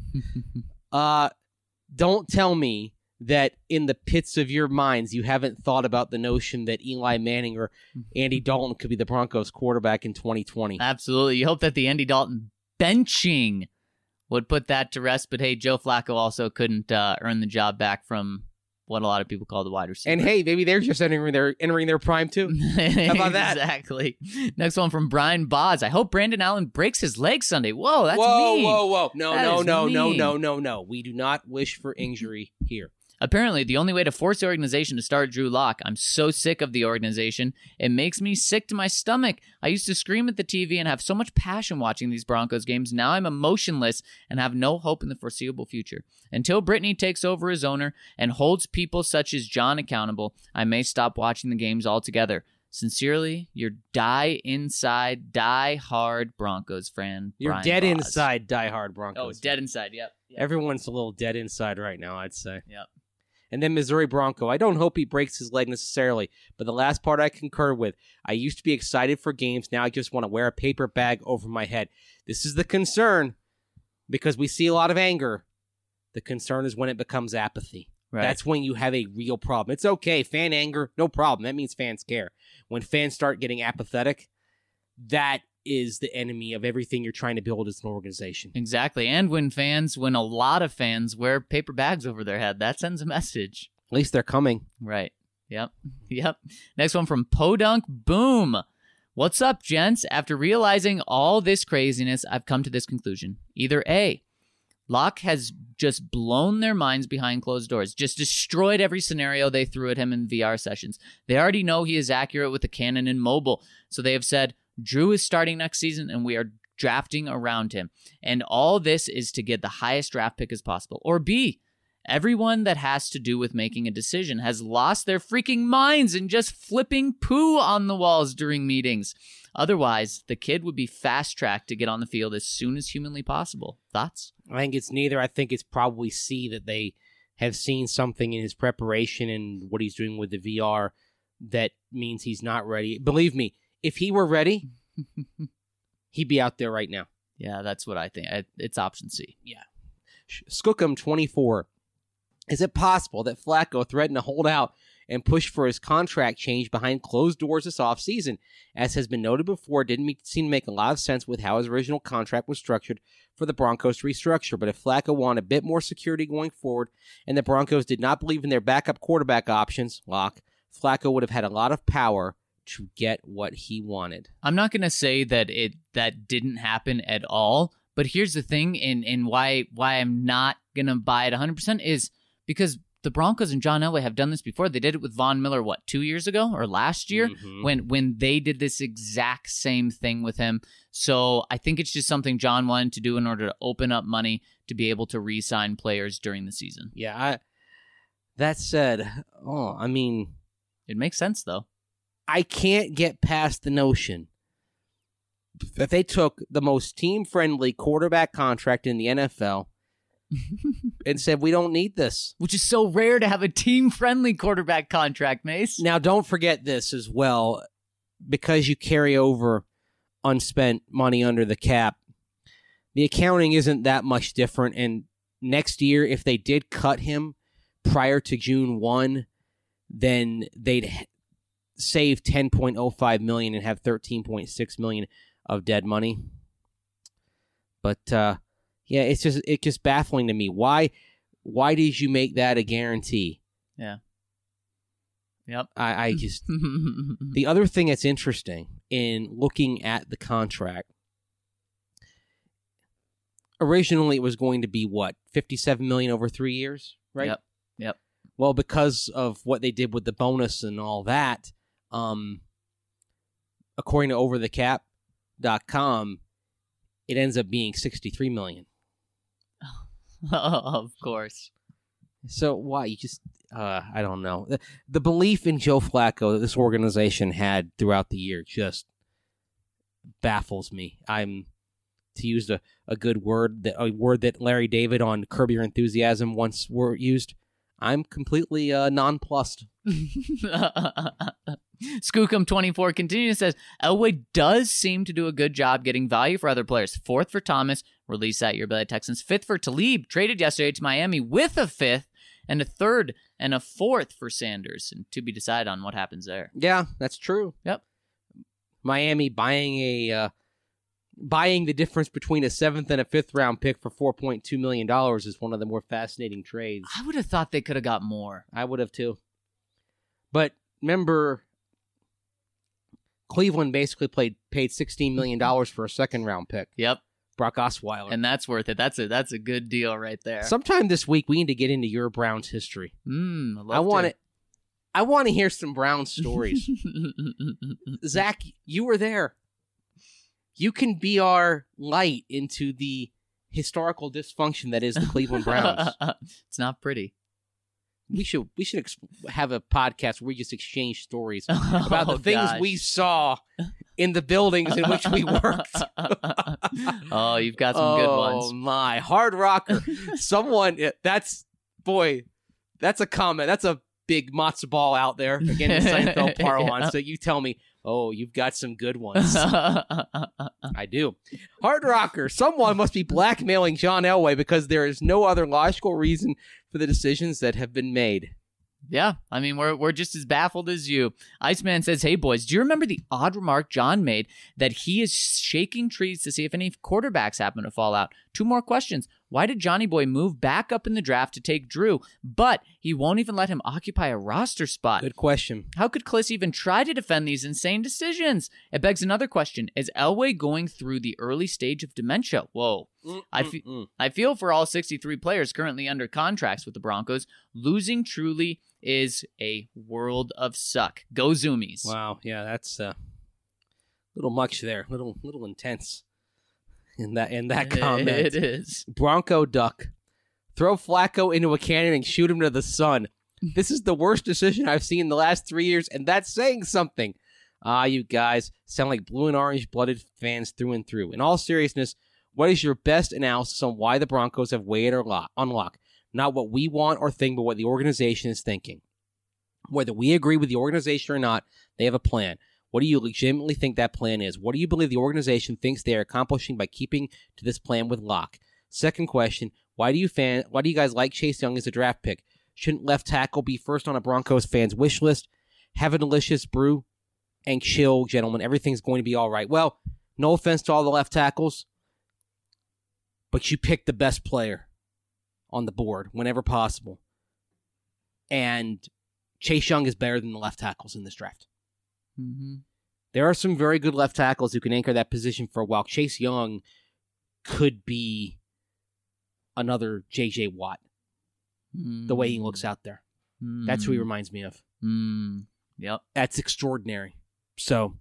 uh, don't tell me that in the pits of your minds you haven't thought about the notion that Eli Manning or Andy Dalton could be the Broncos quarterback in twenty twenty. Absolutely. You hope that the Andy Dalton benching would put that to rest. But hey, Joe Flacco also couldn't uh, earn the job back from what a lot of people call the wide receiver. And hey, maybe they're just entering their entering their prime too. How about that? Exactly. Next one from Brian Boz. I hope Brandon Allen breaks his leg Sunday. Whoa, that's whoa, mean. Whoa, whoa, whoa. No, that no, no, mean. no, no, no, no. We do not wish for injury here. Apparently, the only way to force the organization to start Drew Lock. I'm so sick of the organization. It makes me sick to my stomach. I used to scream at the T V and have so much passion watching these Broncos games. Now I'm emotionless and have no hope in the foreseeable future. Until Brittany takes over as owner and holds people such as John accountable, I may stop watching the games altogether. Sincerely, your die inside, die hard Broncos fan. You're Brian dead Boz. inside, die hard Broncos. Oh, dead inside, yep. yep. Everyone's a little dead inside right now, I'd say. Yep. And then Missouri Bronco. I don't hope he breaks his leg necessarily, but the last part I concur with. I used to be excited for games. Now I just want to wear a paper bag over my head. This is the concern because we see a lot of anger. The concern is when it becomes apathy. Right. That's when you have a real problem. It's okay. Fan anger, no problem. That means fans care. When fans start getting apathetic, that is the enemy of everything you're trying to build as an organization. Exactly. And when fans, when a lot of fans wear paper bags over their head, that sends a message. At least they're coming. Right. Yep. Yep. Next one from Podunk Boom. What's up, gents? After realizing all this craziness, I've come to this conclusion. Either A, Locke has just blown their minds behind closed doors, just destroyed every scenario they threw at him in V R sessions. They already know he is accurate with the cannon and mobile, so they have said, Drew is starting next season, and we are drafting around him. And all this is to get the highest draft pick as possible. Or B, everyone that has to do with making a decision has lost their freaking minds and just flipping poo on the walls during meetings. Otherwise, the kid would be fast-tracked to get on the field as soon as humanly possible. Thoughts? I think it's neither. I think it's probably C, that they have seen something in his preparation and what he's doing with the V R that means he's not ready. Believe me, if he were ready, he'd be out there right now. Yeah, that's what I think. It's option C. Yeah. Skookum twenty-four. Is it possible that Flacco threatened to hold out and push for his contract change behind closed doors this offseason? As has been noted before, it didn't make, seem to make a lot of sense with how his original contract was structured for the Broncos to restructure. But if Flacco wanted a bit more security going forward and the Broncos did not believe in their backup quarterback options, Locke, Flacco would have had a lot of power to get what he wanted. I'm not going to say that it that didn't happen at all, but here's the thing, and, and why why I'm not going to buy it one hundred percent is because the Broncos and John Elway have done this before. They did it with Von Miller, what, two years ago or last year Mhm. when when they did this exact same thing with him. So I think it's just something John wanted to do in order to open up money to be able to re-sign players during the season. Yeah. I, that said, oh, I mean, It makes sense, though. I can't get past the notion that they took the most team-friendly quarterback contract in the N F L and said, we don't need this. Which is so rare to have a team-friendly quarterback contract, Mace. Now, don't forget this as well, because you carry over unspent money under the cap. The accounting isn't that much different, and next year, if they did cut him prior to June first, then they'd h- save ten point oh five million dollars and have thirteen point six million dollars of dead money. But uh, yeah, it's just it's just baffling to me. Why why did you make that a guarantee? Yeah. Yep. I, I just the other thing that's interesting in looking at the contract, originally it was going to be what, fifty-seven million dollars over three years, right? Yep. Yep. Well, because of what they did with the bonus and all that, um, according to over the cap dot com, it ends up being sixty-three million Oh, of course. So why you just uh, I don't know. The, the belief in Joe Flacco that this organization had throughout the year just baffles me. I'm to use a, a good word that a word that Larry David on Curb Your Enthusiasm once were used. I'm completely uh, nonplussed. Skookum twenty-four continues, says, Elway does seem to do a good job getting value for other players. Fourth for Thomas, released that year by the Texans. Fifth for Talib, traded yesterday to Miami with a fifth, and a third and a fourth for Sanders. And to be decided on what happens there. Yeah, that's true. Yep. Miami buying a uh, buying the difference between a seventh and a fifth round pick for four point two million dollars is one of the more fascinating trades. I would have thought they could have got more. I would have too. But remember, Cleveland basically played paid sixteen million dollars for a second round pick. Yep. Brock Osweiler. And that's worth it. That's a that's a good deal right there. Sometime this week we need to get into your Browns history. Mm, I, I want to I want to hear some Browns stories. Zach, you were there. You can be our light into the historical dysfunction that is the Cleveland Browns. It's not pretty. We should we should ex- have a podcast where we just exchange stories about Oh, the things gosh. we saw in the buildings in which we worked. Oh, you've got some good ones. Oh my, Hard Rocker! Someone that's boy, that's a comment. That's a big matzo ball out there again in Seinfeld parlance. Yeah. So you tell me, oh, you've got some good ones. I do. Hard Rocker, someone must be blackmailing John Elway because there is no other logical reason for the decisions that have been made. Yeah, I mean, we're we're just as baffled as you. Iceman says, hey, boys, do you remember the odd remark John made that he is shaking trees to see if any quarterbacks happen to fall out? Two more questions. Why did Johnny Boy move back up in the draft to take Drew, but he won't even let him occupy a roster spot? Good question. How could Kliss even try to defend these insane decisions? It begs another question. Is Elway going through the early stage of dementia? Whoa. I, fe- Mm-mm. I feel for all sixty-three players currently under contracts with the Broncos. Losing truly is a world of suck. Go Zoomies. Wow, yeah, that's a uh, little much there. Little little intense in that in that comment. It is. Bronco duck. Throw Flacco into a cannon and shoot him to the sun. This is the worst decision I've seen in the last three years, and that's saying something. Ah, you guys sound like blue and orange blooded fans through and through. In all seriousness, what is your best analysis on why the Broncos have waited or lock, on lock? Not what we want or think, but what the organization is thinking. Whether we agree with the organization or not, they have a plan. What do you legitimately think that plan is? What do you believe the organization thinks they are accomplishing by keeping to this plan with Locke? Second question, why do you fan? Why do you guys like Chase Young as a draft pick? Shouldn't left tackle be first on a Broncos fan's wish list? Have a delicious brew and chill, gentlemen. Everything's going to be all right. Well, no offense to all the left tackles, but you pick the best player on the board whenever possible. And Chase Young is better than the left tackles in this draft. Mm-hmm. There are some very good left tackles who can anchor that position for a while. Chase Young could be another J J Watt. the way he looks out there. Mm. That's who he reminds me of. Mm. Yep. That's extraordinary. So,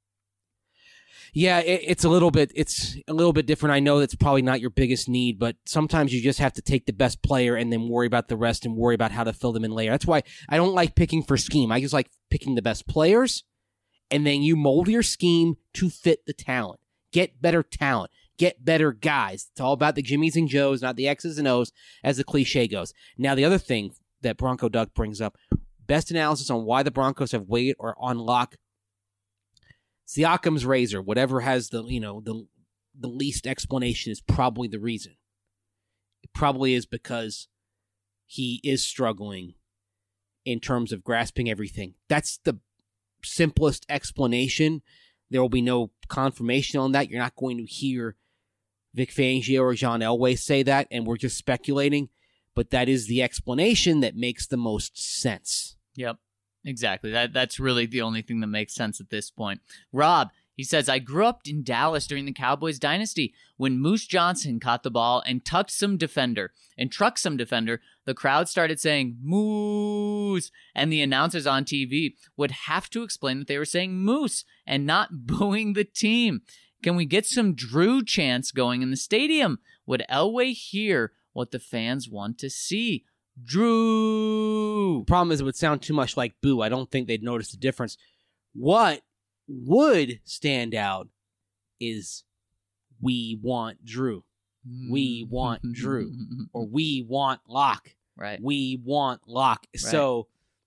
yeah, it, it's a little bit it's a little bit different. I know that's probably not your biggest need, but sometimes you just have to take the best player and then worry about the rest and worry about how to fill them in later. That's why I don't like picking for scheme. I just like picking the best players, and then you mold your scheme to fit the talent. Get better talent. Get better guys. It's all about the Jimmies and Joes, not the X's and O's, as the cliche goes. Now, the other thing that Bronco Duck brings up, best analysis on why the Broncos have waited or on lock Siakam's razor, whatever has the, you know, the the least explanation is probably the reason. It probably is because he is struggling in terms of grasping everything. That's the simplest explanation. There will be no confirmation on that. You're not going to hear Vic Fangio or John Elway say that, and we're just speculating. But that is the explanation that makes the most sense. Yep. Exactly. That that's really the only thing that makes sense at this point. Rob, he says, I grew up in Dallas during the Cowboys dynasty when Moose Johnson caught the ball and tucked some defender and trucked some defender. The crowd started saying Moose, and the announcers on T V would have to explain that they were saying Moose and not booing the team. Can we get some Drew chants going in the stadium? Would Elway hear what the fans want to see? Drew. Problem is, it would sound too much like boo. I don't think they'd notice the difference. What would stand out is we want Drew. We want Drew. Or we want Lock. Right. We want Lock. Right. So,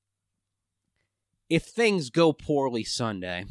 if things go poorly Sunday,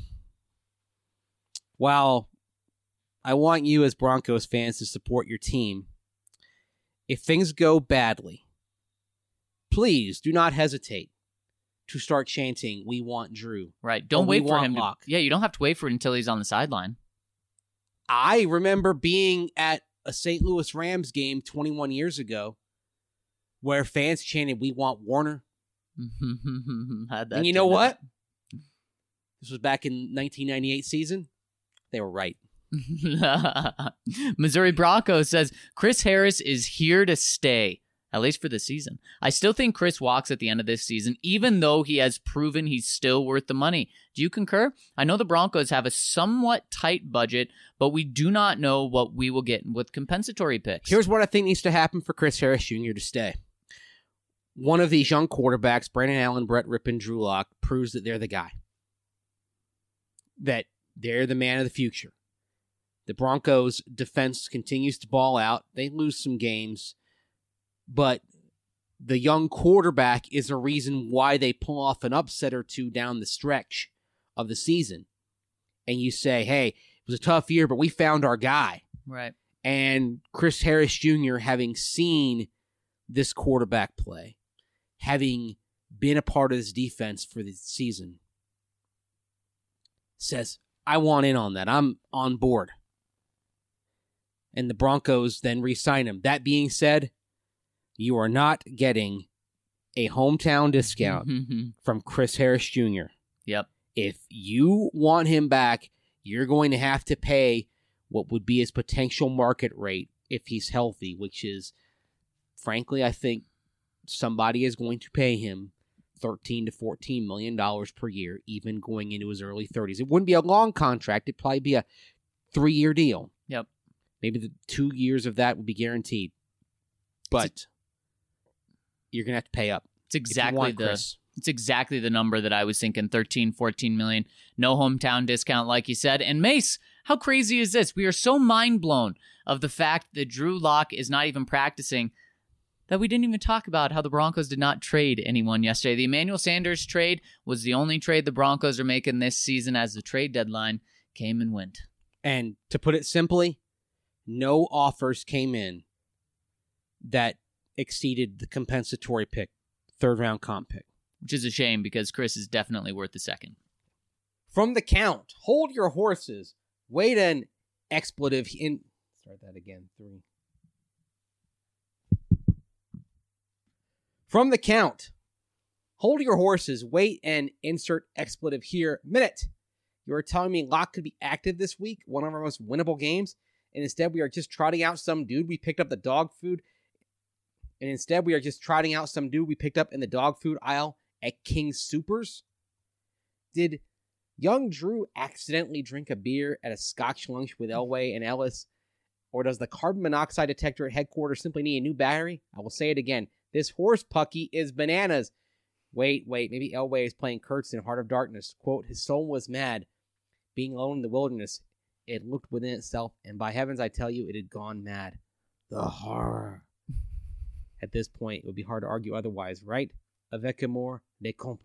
while I want you as Broncos fans to support your team, if things go badly, please do not hesitate to start chanting, we want Drew. Right. Don't Or wait we for want him to. Lock. Yeah, you don't have to wait for it until he's on the sideline. I remember being at a Saint Louis Rams game twenty-one years ago where fans chanted, we want Warner. Had that And you know too. what? This was back in nineteen ninety-eight season. They were right. Missouri Broncos says Chris Harris is here to stay, at least for the season. I still think Chris walks at the end of this season, even though he has proven he's still worth the money. Do you concur? I know the Broncos have a somewhat tight budget, but we do not know what we will get with compensatory picks. Here's what I think needs to happen for Chris Harris Junior to stay. One of these young quarterbacks, Brandon Allen, Brett Rippon, Drew Lock, proves that they're the guy. That they're the man of the future. The Broncos' defense continues to ball out. They lose some games, but the young quarterback is a reason why they pull off an upset or two down the stretch of the season. And you say, hey, it was a tough year, but we found our guy. Right. And Chris Harris Junior, having seen this quarterback play, having been a part of this defense for the season, says, I want in on that. I'm on board. And the Broncos then re-sign him. That being said, you are not getting a hometown discount from Chris Harris Junior Yep. If you want him back, you're going to have to pay what would be his potential market rate if he's healthy, which is, frankly, I think somebody is going to pay him thirteen to fourteen million dollars per year, even going into his early thirties. It wouldn't be a long contract. It'd probably be a three-year deal. Yep. Maybe the two years of that would be guaranteed. But you're going to have to pay up. It's exactly the Chris. It's exactly the number that I was thinking, thirteen, fourteen million. No hometown discount, like you said. And Mace, how crazy is this? We are so mind blown of the fact that Drew Lock is not even practicing that we didn't even talk about how the Broncos did not trade anyone yesterday. The Emmanuel Sanders trade was the only trade the Broncos are making this season, as the trade deadline came and went. And to put it simply, no offers came in that exceeded the compensatory pick, third round comp pick. Which is a shame because Chris is definitely worth the second. From the count, hold your horses. Wait an expletive in. Start that again. Three. From the count, hold your horses. Wait and insert expletive here. Minute. You are telling me Locke could be active this week, one of our most winnable games, and instead we are just trotting out some dude we picked up the dog food. and instead we are just trotting out some dude we picked up in the dog food aisle at King Soopers? Did young Drew accidentally drink a beer at a Scotch lunch with Elway and Ellis? Or does the carbon monoxide detector at headquarters simply need a new battery? I will say it again. This horse pucky is bananas. Wait, wait, maybe Elway is playing Kurtz in Heart of Darkness. Quote, his soul was mad. Being alone in the wilderness, it looked within itself, and by heavens, I tell you, it had gone mad. The horror. At this point, it would be hard to argue otherwise, right? Avec amour, des comptes.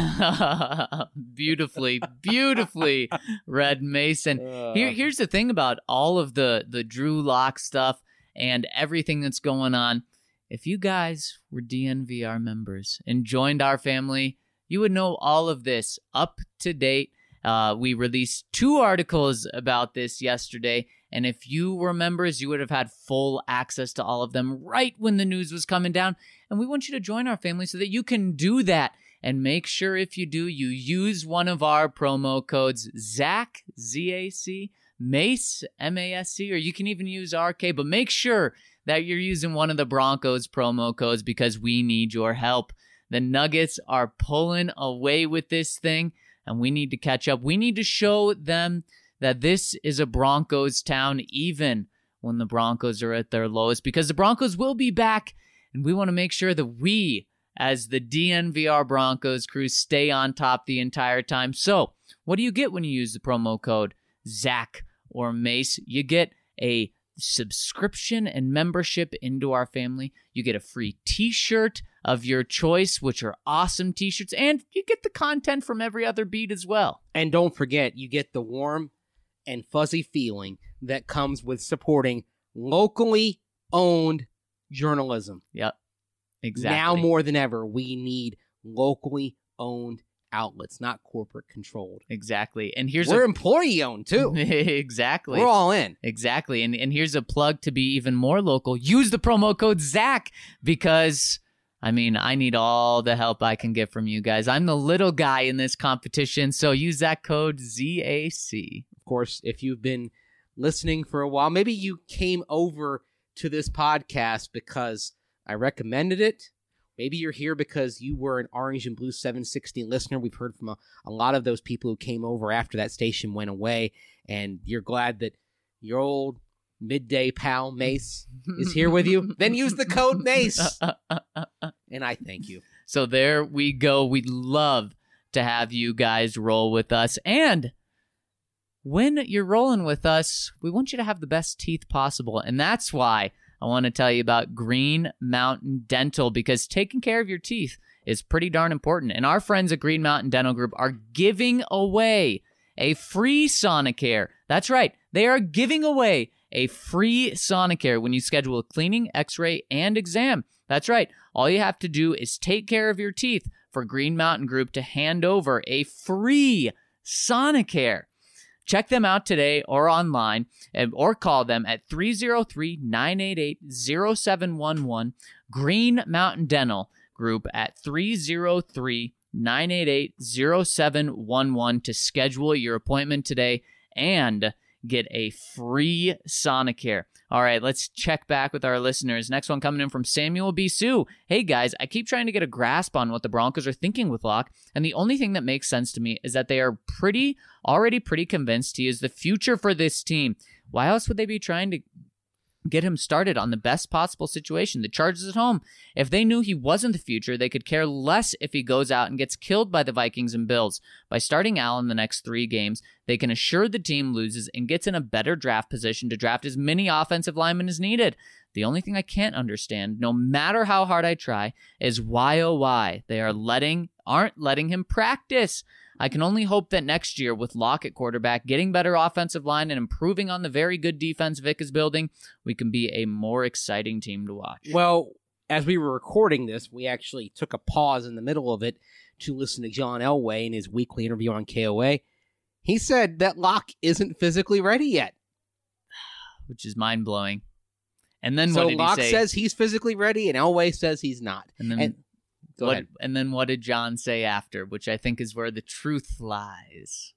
beautifully, beautifully read, Mason. Uh, Here, here's the thing about all of the, the Drew Lock stuff and everything that's going on. If you guys were D N V R members and joined our family, you would know all of this up to date. Uh, we released two articles about this yesterday, and if you were members, you would have had full access to all of them right when the news was coming down. And we want you to join our family so that you can do that. And make sure if you do, you use one of our promo codes, Zach, Z A C, Mace, M A S C, or you can even use R K, but make sure that you're using one of the Broncos promo codes because we need your help. The Nuggets are pulling away with this thing, and we need to catch up. We need to show them that this is a Broncos town, even when the Broncos are at their lowest, because the Broncos will be back, and we want to make sure that we, as the D N V R Broncos crew, stay on top the entire time. So, what do you get when you use the promo code Zach or Mace? You get a subscription and membership into our family. You get a free t-shirt of your choice, which are awesome t-shirts, and you get the content from every other beat as well. And don't forget, you get the warm and fuzzy feeling that comes with supporting locally owned journalism. Yep, exactly. Now more than ever, we need locally owned outlets, not corporate controlled. Exactly. And here's We're a... employee owned too. Exactly. We're all in. Exactly. And and here's a plug to be even more local. Use the promo code Zach because, I mean, I need all the help I can get from you guys. I'm the little guy in this competition, so use that code Z A C. Of course, if you've been listening for a while, maybe you came over to this podcast because I recommended it. Maybe you're here because you were an Orange and Blue seven sixty listener. We've heard from a, a lot of those people who came over after that station went away, and you're glad that your old midday pal Mace is here with you. Then use the code Mace, and I thank you. So there we go. We'd love to have you guys roll with us, and when you're rolling with us, we want you to have the best teeth possible, and that's why I want to tell you about Green Mountain Dental, because taking care of your teeth is pretty darn important. And our friends at Green Mountain Dental Group are giving away a free Sonicare. That's right. They are giving away a free Sonicare when you schedule a cleaning, x-ray, and exam. That's right. All you have to do is take care of your teeth for Green Mountain Group to hand over a free Sonicare. Check them out today or online, or call them at three oh three, nine eight eight, oh seven one one. Green Mountain Dental Group at three oh three, nine eight eight, oh seven one one to schedule your appointment today and get a free Sonicare. All right, let's check back with our listeners. Next one coming in from Samuel B. Sue. Hey, guys, I keep trying to get a grasp on what the Broncos are thinking with Locke, and the only thing that makes sense to me is that they are pretty, already pretty convinced he is the future for this team. Why else would they be trying to get him started on the best possible situation? The Chargers at home. If they knew he wasn't the future, they could care less if he goes out and gets killed by the Vikings and Bills. By starting Allen the next three games, they can assure the team loses and gets in a better draft position to draft as many offensive linemen as needed. The only thing I can't understand, no matter how hard I try, is why oh why they are letting aren't letting him practice. I can only hope that next year, with Locke at quarterback, getting better offensive line, and improving on the very good defense Vic is building, we can be a more exciting team to watch. Well, as we were recording this, we actually took a pause in the middle of it to listen to John Elway in his weekly interview on K O A. He said that Locke isn't physically ready yet. Which is mind-blowing. And then so what did Locke he say? says he's physically ready, and Elway says he's not. And then... And, Go what, ahead. And then what did John say after, which I think is where the truth lies?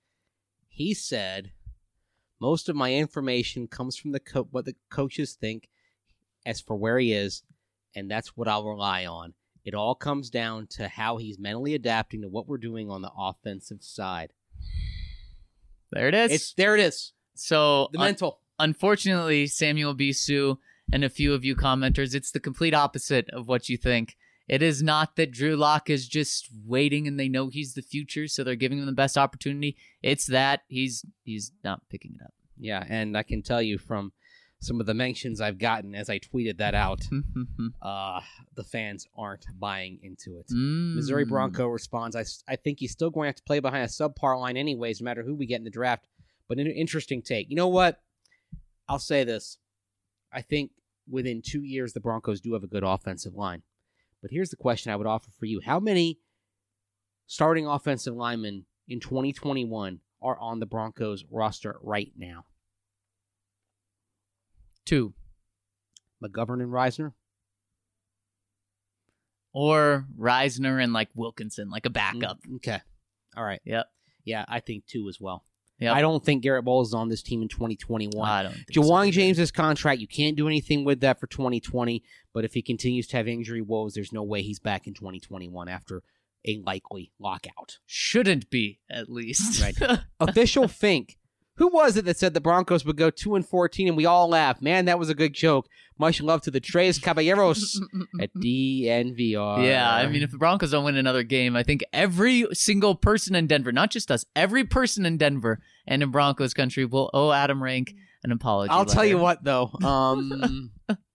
He said, most of my information comes from the co- what the coaches think as for where he is, and that's what I'll rely on. It all comes down to how he's mentally adapting to what we're doing on the offensive side. There it is. It's there it is. So The un- mental. unfortunately, Samuel Bisu and a few of you commenters, it's the complete opposite of what you think. It is not that Drew Lock is just waiting and they know he's the future, so they're giving him the best opportunity. It's that he's he's not picking it up. Yeah, and I can tell you from some of the mentions I've gotten as I tweeted that out, uh, the fans aren't buying into it. Mm. Missouri Bronco responds, I, I think he's still going to have to play behind a subpar line anyways, no matter who we get in the draft. But an interesting take. You know what? I'll say this. I think within two years, the Broncos do have a good offensive line. But here's the question I would offer for you. How many starting offensive linemen in twenty twenty-one are on the Broncos roster right now? Two. McGovern and Reisner? Or Reisner and like Wilkinson, like a backup. Mm, okay. All right. Yep. Yeah, I think two as well. Yep. I don't think Garrett Bowles is on this team in twenty twenty-one. I don't think Jawan so. James's contract, you can't do anything with that for twenty twenty, but if he continues to have injury woes, there's no way he's back in twenty twenty-one after a likely lockout. Shouldn't be, at least. Right. Official Fink. Who was it that said the Broncos would go two and fourteen and we all laughed? Man, that was a good joke. Much love to the Tres Caballeros at D N V R. Yeah, I mean, if the Broncos don't win another game, I think every single person in Denver, not just us, every person in Denver and in Broncos country will owe Adam Rank an apology. I'll tell you letter. what, though. Um,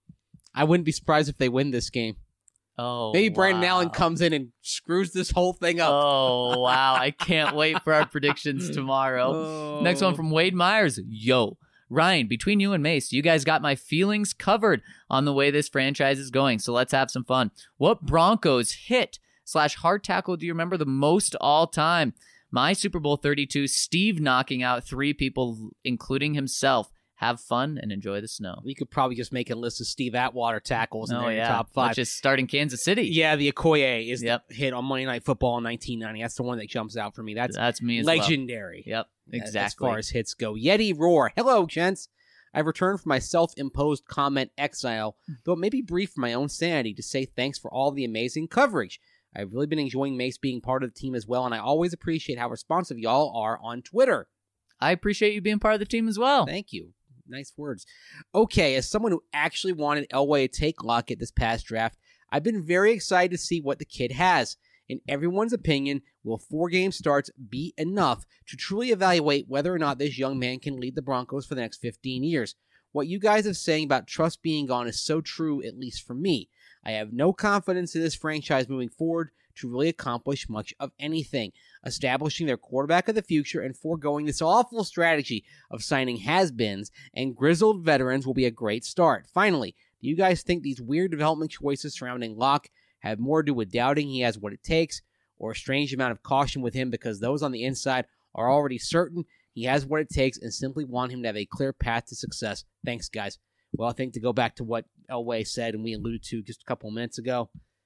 I wouldn't be surprised if they win this game. Oh, Maybe Brandon wow. Allen comes in and screws this whole thing up. Oh, wow. I can't wait for our predictions tomorrow. Oh. Next one from Wade Myers. Yo, Ryan, between you and Mace, you guys got my feelings covered on the way this franchise is going, so let's have some fun. What Broncos hit slash hard tackle do you remember the most all time? My Super Bowl thirty-two, Steve knocking out three people, including himself. Have fun and enjoy the snow. We could probably just make a list of Steve Atwater tackles in Oh, their yeah. top five. Let's just start in Kansas City. Yeah, the Okoye is Yep. the hit on Monday Night Football in nineteen ninety. That's the one that jumps out for me. That's That's me as legendary. well. Yep, exactly. As far as hits go. Yeti Roar. Hello, gents. I've returned from my self-imposed comment exile, though it may be brief for my own sanity, to say thanks for all the amazing coverage. I've really been enjoying Mace being part of the team as well, and I always appreciate how responsive y'all are on Twitter. I appreciate you being part of the team as well. Thank you. Nice words. Okay, as someone who actually wanted Elway to take Lockett this past draft, I've been very excited to see what the kid has. In everyone's opinion, will four game starts be enough to truly evaluate whether or not this young man can lead the Broncos for the next fifteen years? What you guys are saying about trust being gone is so true, at least for me. I have no confidence in this franchise moving forward to really accomplish much of anything. Establishing their quarterback of the future and foregoing this awful strategy of signing has-beens and grizzled veterans will be a great start. Finally, do you guys think these weird development choices surrounding Locke have more to do with doubting he has what it takes, or a strange amount of caution with him because those on the inside are already certain he has what it takes and simply want him to have a clear path to success? Thanks, guys. Well, I think to go back to what Elway said and we alluded to just a couple of minutes ago,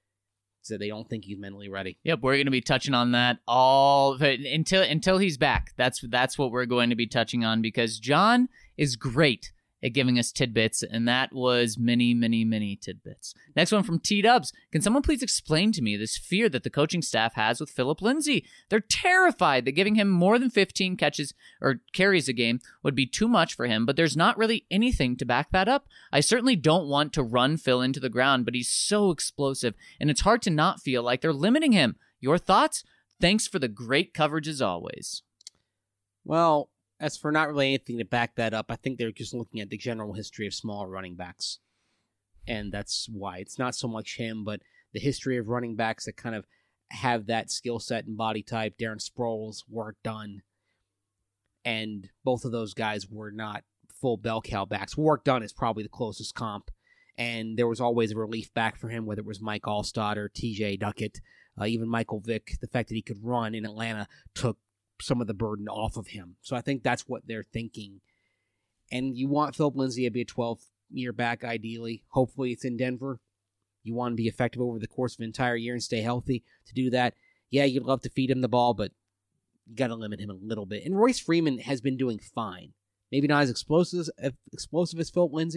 so they don't think he's mentally ready. Yep, we're going to be touching on that all until until he's back. That's that's what we're going to be touching on because John is great at giving us tidbits, and that was many, many, many tidbits. Next one from T-Dubs. Can someone please explain to me this fear that the coaching staff has with Philip Lindsay? They're terrified that giving him more than fifteen catches or carries a game would be too much for him, but there's not really anything to back that up. I certainly don't want to run Phil into the ground, but he's so explosive, and it's hard to not feel like they're limiting him. Your thoughts? Thanks for the great coverage as always. Well, as for not really anything to back that up, I think they're just looking at the general history of small running backs. And that's why. It's not so much him, but the history of running backs that kind of have that skill set and body type. Darren Sproles, Warrick Dunn. And both of those guys were not full bell cow backs. Warrick Dunn is probably the closest comp. And there was always a relief back for him, whether it was Mike Allstott or T J Duckett, uh, even Michael Vick. The fact that he could run in Atlanta took some of the burden off of him. So I think that's what they're thinking. And you want Philip Lindsay to be a twelve-year back, ideally. Hopefully it's in Denver. You want to be effective over the course of an entire year and stay healthy. To do that, yeah, you'd love to feed him the ball, but you got to limit him a little bit. And Royce Freeman has been doing fine. Maybe not as explosive as, explosive as Philip Lindsay,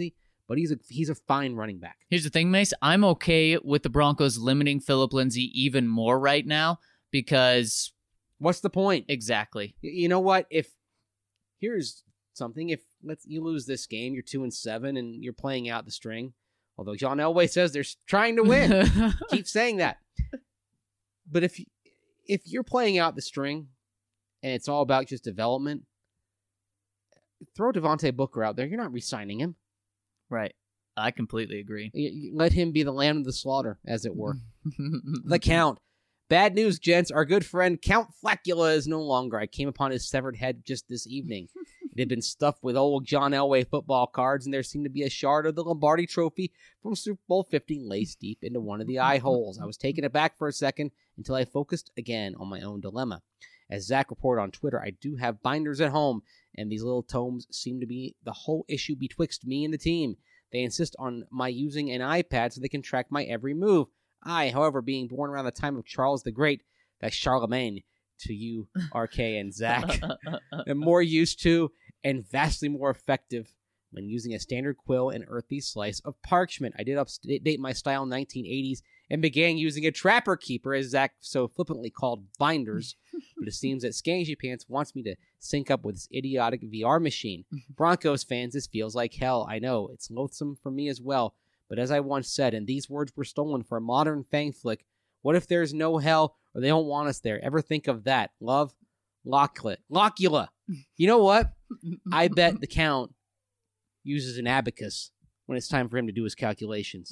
but he's a he's a fine running back. Here's the thing, Mace. I'm okay with the Broncos limiting Phillip Lindsay even more right now because... What's the point? Exactly. You know what? If here's something. If let's you lose this game, you're two and seven, and you're playing out the string. Although John Elway says they're trying to win. Keep saying that. But if if you're playing out the string and it's all about just development, throw Devontae Booker out there. You're not re-signing him. Right. I completely agree. Let him be the lamb of the slaughter, as it were. The Count. Bad news, gents. Our good friend Count Flacula is no longer. I came upon his severed head just this evening. It had been stuffed with old John Elway football cards, and there seemed to be a shard of the Lombardi trophy from Super Bowl fifty laced deep into one of the eye holes. I was taken aback for a second until I focused again on my own dilemma. As Zach reported on Twitter, I do have binders at home, and these little tomes seem to be the whole issue betwixt me and the team. They insist on my using an iPad so they can track my every move. I, however, being born around the time of Charles the Great, that's Charlemagne to you, R K and Zach, am more used to and vastly more effective when using a standard quill and earthy slice of parchment. I did update my style in nineteen eighties and began using a trapper keeper, as Zach so flippantly called binders, but it seems that Skangy Pants wants me to sync up with this idiotic V R machine. Broncos fans, this feels like hell. I know, it's loathsome for me as well. But as I once said, and these words were stolen for a modern fang flick, what if there's no hell or they don't want us there? Ever think of that? Love, Locula. Locula. You know what? I bet the Count uses an abacus when it's time for him to do his calculations.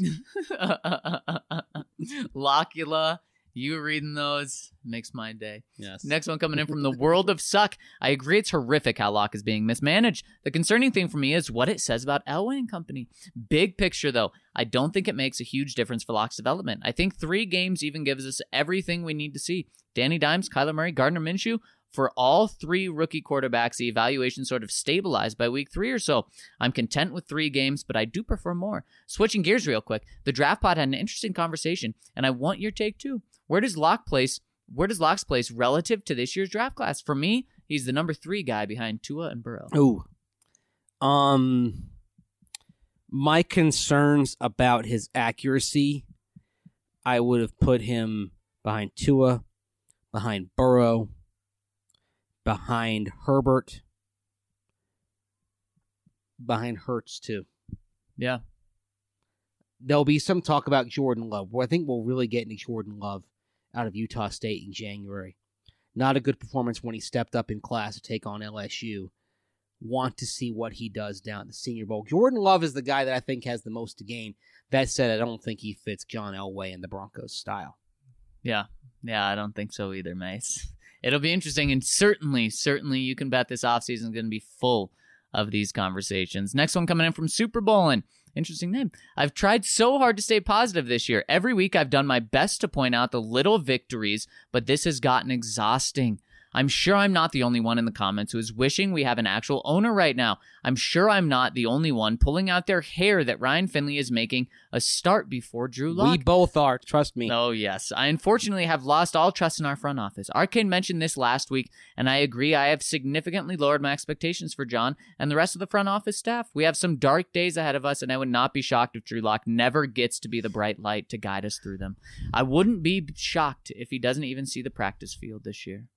Locula. You reading those makes my day. Yes. Next one coming in from the World of Suck. I agree it's horrific how Locke is being mismanaged. The concerning thing for me is what it says about Elway and company. Big picture, though, I don't think it makes a huge difference for Locke's development. I think three games even gives us everything we need to see. Danny Dimes, Kyler Murray, Gardner Minshew. For all three rookie quarterbacks, the evaluation sort of stabilized by week three or so. I'm content with three games, but I do prefer more. Switching gears real quick, the draft pod had an interesting conversation, and I want your take too. Where does Locke place? Where does Locke's place relative to this year's draft class? For me, he's the number three guy behind Tua and Burrow. Ooh, um, my concerns about his accuracy, I would have put him behind Tua, behind Burrow, behind Herbert, behind Hurts too. Yeah. There'll be some talk about Jordan Love. Well, I think we'll really get into Jordan Love out of Utah State in January. Not a good performance when he stepped up in class to take on L S U. Want to see what he does down at the Senior Bowl. Jordan Love is the guy that I think has the most to gain. That said, I don't think he fits John Elway and the Broncos style. Yeah. Yeah, I don't think so either, Mace. It'll be interesting, and certainly, certainly you can bet this offseason is going to be full of these conversations. Next one coming in from Super Bowlin'. Interesting name. I've tried so hard to stay positive this year. Every week I've done my best to point out the little victories, but this has gotten exhausting. I'm sure I'm not the only one in the comments who is wishing we have an actual owner right now. I'm sure I'm not the only one pulling out their hair that Ryan Finley is making a start before Drew Lock. We both are, trust me. Oh, yes. I unfortunately have lost all trust in our front office. Arcade mentioned this last week, and I agree I have significantly lowered my expectations for John and the rest of the front office staff. We have some dark days ahead of us, and I would not be shocked if Drew Lock never gets to be the bright light to guide us through them. I wouldn't be shocked if he doesn't even see the practice field this year.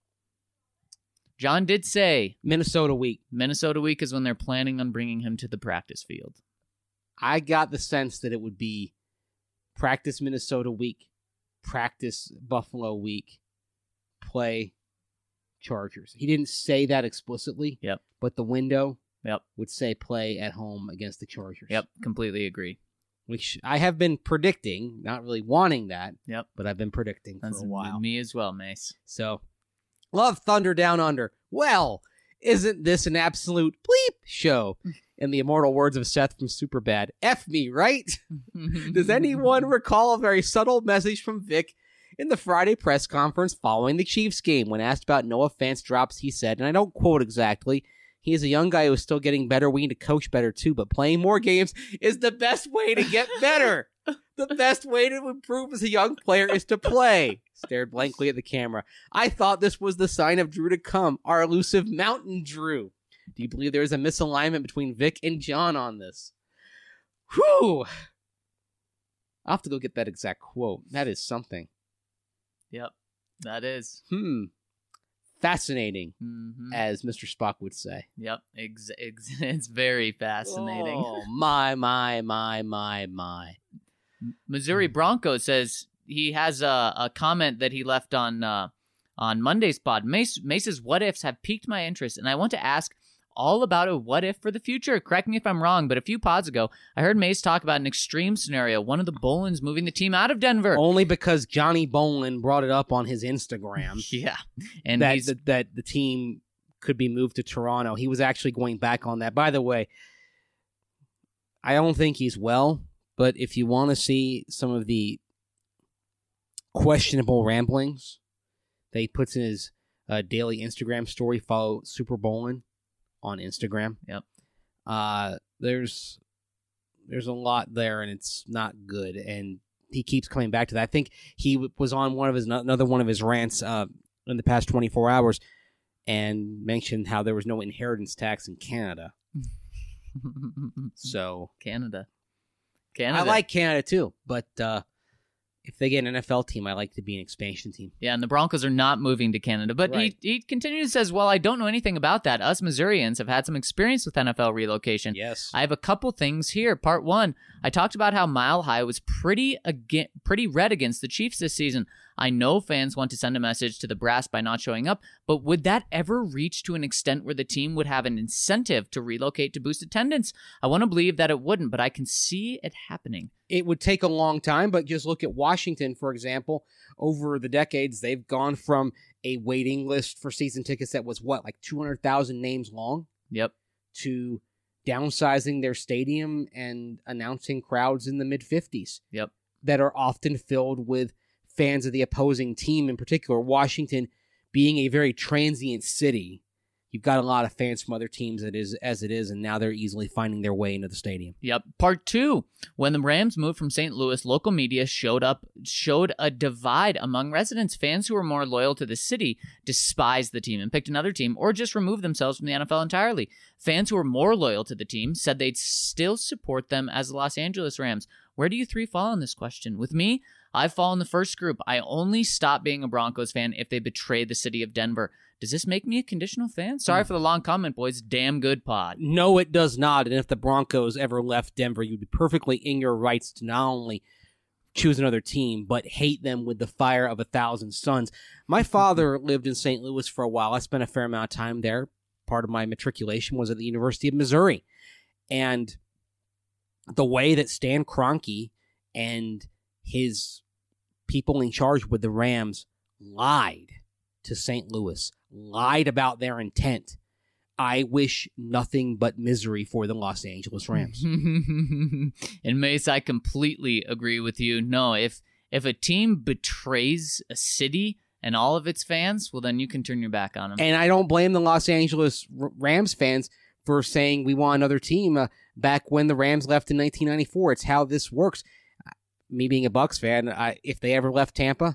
John did say Minnesota week. Minnesota week is when they're planning on bringing him to the practice field. I got the sense that it would be practice Minnesota week, practice Buffalo week, play Chargers. He didn't say that explicitly. Yep. But the window yep. would say play at home against the Chargers. Yep, completely agree. Which I have been predicting, not really wanting that. Yep. But I've been predicting That's for a while. Me as well, Mace. So, love Thunder Down Under. Well, isn't this an absolute bleep show? In the immortal words of Seth from Superbad, F me, right? Does anyone recall a very subtle message from Vic in the Friday press conference following the Chiefs game? When asked about Noah Fant's drops, he said, and I don't quote exactly, he is a young guy who is still getting better. We need to coach better too, but playing more games is the best way to get better. The best way to improve as a young player is to play. Stared blankly at the camera. I thought this was the sign of Drew to come, our elusive Mountain Drew. Do you believe there is a misalignment between Vic and John on this? Whew. I'll have to go get that exact quote. That is something. Yep, that is. Hmm. Fascinating, Mm-hmm. as Mister Spock would say. Yep, ex- ex- it's very fascinating. Oh, my, my, my, my, my. Missouri Bronco says he has a, a comment that he left on uh, on Monday's pod. Mace, Mace's what ifs have piqued my interest, and I want to ask all about a what if for the future. Correct me if I'm wrong, but a few pods ago, I heard Mace talk about an extreme scenario, one of the Bolins moving the team out of Denver. Only because Johnny Bolin brought it up on his Instagram. Yeah, and that, he's that that the team could be moved to Toronto. He was actually going back on that. By the way, I don't think he's well, but if you want to see some of the questionable ramblings that he puts in his uh, daily Instagram story, follow Super Bolin on Instagram. Yep. Uh, there's there's a lot there, and it's not good. And he keeps coming back to that. I think he w- was on one of his another one of his rants uh, in the past twenty-four hours, and mentioned how there was no inheritance tax in Canada. So Canada. Canada. I like Canada too, but uh, if they get an N F L team, I like to be an expansion team. Yeah, and the Broncos are not moving to Canada. But Right. he, he continues, says, well, I don't know anything about that. Us Missourians have had some experience with N F L relocation. Yes. I have a couple things here. Part one, I talked about how Mile High was pretty aga- pretty red against the Chiefs this season. I know fans want to send a message to the brass by not showing up, but would that ever reach to an extent where the team would have an incentive to relocate to boost attendance? I want to believe that it wouldn't, but I can see it happening. It would take a long time, but just look at Washington, for example. Over the decades, they've gone from a waiting list for season tickets that was, what, like two hundred thousand names long? Yep. To downsizing their stadium and announcing crowds in the mid-fifties. Yep. That are often filled with fans of the opposing team in particular. Washington being a very transient city, you've got a lot of fans from other teams that is, as it is, and now they're easily finding their way into the stadium. Yep. Part two. When the Rams moved from Saint Louis, local media showed up showed a divide among residents. Fans who were more loyal to the city despised the team and picked another team or just removed themselves from the N F L entirely. Fans who were more loyal to the team said they'd still support them as the Los Angeles Rams. Where do you three fall on this question? With me, I fall in the first group. I only stop being a Broncos fan if they betray the city of Denver. Does this make me a conditional fan? Sorry for the long comment, boys. Damn good pod. No, it does not. And if the Broncos ever left Denver, you'd be perfectly in your rights to not only choose another team, but hate them with the fire of a thousand suns. My father lived in Saint Louis for a while. I spent a fair amount of time there. Part of my matriculation was at the University of Missouri. And the way that Stan Kroenke and his people in charge with the Rams lied to Saint Louis, lied about their intent. I wish nothing but misery for the Los Angeles Rams. And Mace, I completely agree with you. No, if if a team betrays a city and all of its fans, well, then you can turn your back on them. And I don't blame the Los Angeles R- Rams fans for saying we want another team uh, back when the Rams left in nineteen ninety-four. It's how this works. Me being a Bucs fan, I, if they ever left Tampa,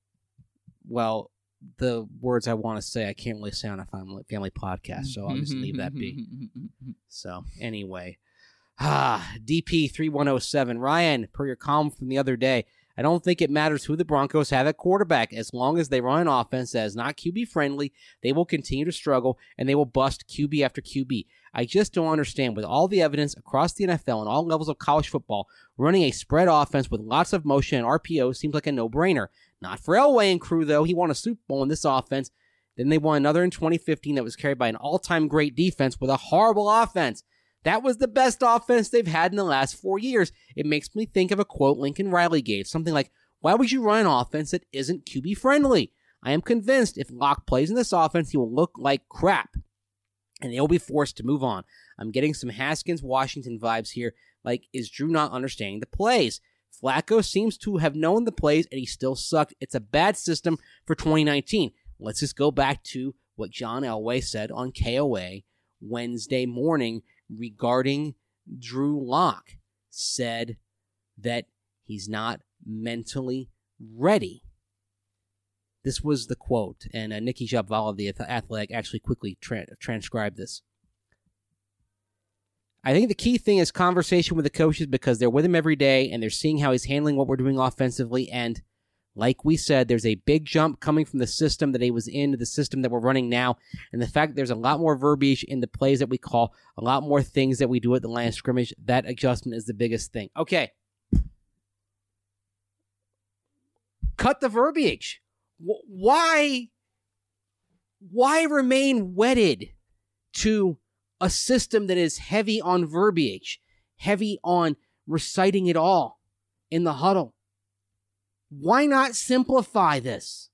well, the words I want to say I can't really say on a family, family podcast, so I'll just leave that be. So anyway, ah, D P three one oh seven, Ryan, per your column from the other day, I don't think it matters who the Broncos have at quarterback. As long as they run an offense that is not Q B friendly, they will continue to struggle and they will bust Q B after Q B. I just don't understand, with all the evidence across the N F L and all levels of college football, running a spread offense with lots of motion and R P O seems like a no-brainer. Not for Elway and crew, though. He won a Super Bowl in this offense. Then they won another in twenty fifteen that was carried by an all-time great defense with a horrible offense. That was the best offense they've had in the last four years. It makes me think of a quote Lincoln Riley gave, something like, why would you run an offense that isn't Q B friendly? I am convinced if Locke plays in this offense, he will look like crap, and they'll be forced to move on. I'm getting some Haskins Washington vibes here, like, is Drew not understanding the plays? Flacco seems to have known the plays, and he still sucked. It's a bad system for twenty nineteen. Let's just go back to what John Elway said on K O A Wednesday morning regarding Drew Lock. Said that he's not mentally ready. This was the quote, and uh, Nikki Jabvala of the Athletic actually quickly tra- transcribed this. I think the key thing is conversation with the coaches because they're with him every day and they're seeing how he's handling what we're doing offensively. And like we said, there's a big jump coming from the system that he was in to the system that we're running now. And the fact that there's a lot more verbiage in the plays that we call, a lot more things that we do at the line of scrimmage, that adjustment is the biggest thing. Okay. Cut the verbiage. Why, why remain wedded to a system that is heavy on verbiage, heavy on reciting it all in the huddle? Why not simplify this?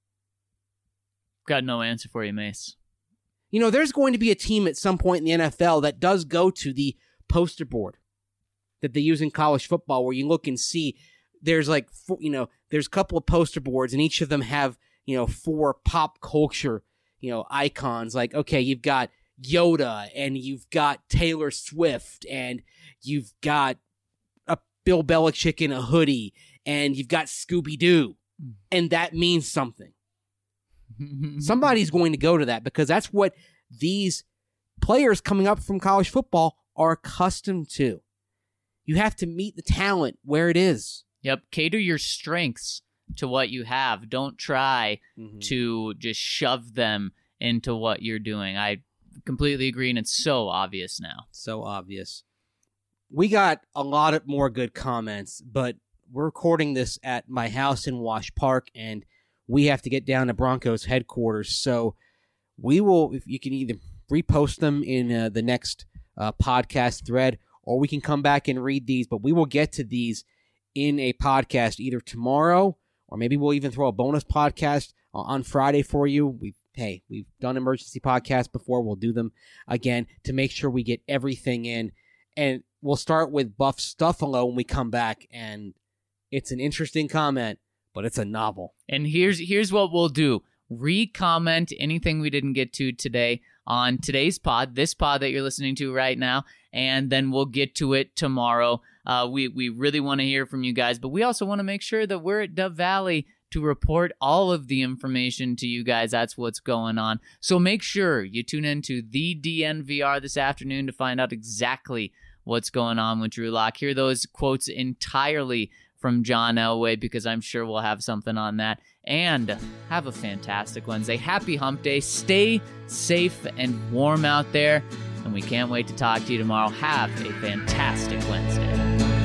Got no answer for you, Mace. You know, there's going to be a team at some point in the N F L that does go to the poster board that they use in college football where you look and see there's like, you know, there's a couple of poster boards and each of them have, you know, four pop culture, you know, icons. Like, okay, you've got Yoda and you've got Taylor Swift and you've got a Bill Belichick in a hoodie and you've got Scooby-Doo, and that means something. Somebody's going to go to that because that's what these players coming up from college football are accustomed to. You have to meet the talent where it is. Yep, cater your strengths to what you have. Don't try Mm-hmm. to just shove them into what you're doing. I completely agree, and it's so obvious now. So obvious. We got a lot of more good comments, but we're recording this at my house in Wash Park, and we have to get down to Broncos headquarters. So we will, if you can either repost them in uh, the next uh, podcast thread, or we can come back and read these, but we will get to these in a podcast either tomorrow, or maybe we'll even throw a bonus podcast on Friday for you. We Hey, we've done emergency podcasts before. We'll do them again to make sure we get everything in. And we'll start with Buff Stuffalo when we come back, and it's an interesting comment, but it's a novel. And here's here's what we'll do. Re-comment anything we didn't get to today on today's pod, this pod that you're listening to right now, and then we'll get to it tomorrow. Uh, we, we really want to hear from you guys, but we also want to make sure that we're at Dove Valley to report all of the information to you guys. That's what's going on. So make sure you tune in to the D N V R this afternoon to find out exactly what's going on with Drew Lock. Hear those quotes entirely from John Elway because I'm sure we'll have something on that. And have a fantastic Wednesday. Happy Hump Day. Stay safe and warm out there. And we can't wait to talk to you tomorrow. Have a fantastic Wednesday.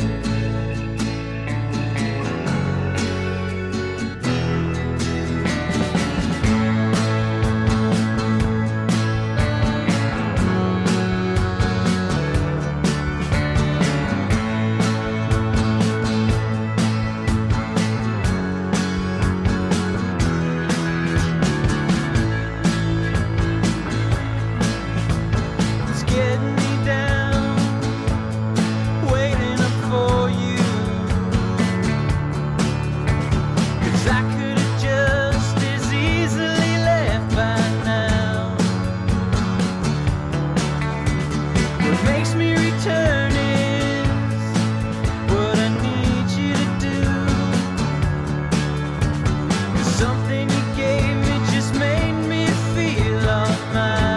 It's getting me down, waiting up for you. 'Cause I could have just as easily left by now. What makes me return is what I need you to do. 'Cause something you gave me just made me feel almighty.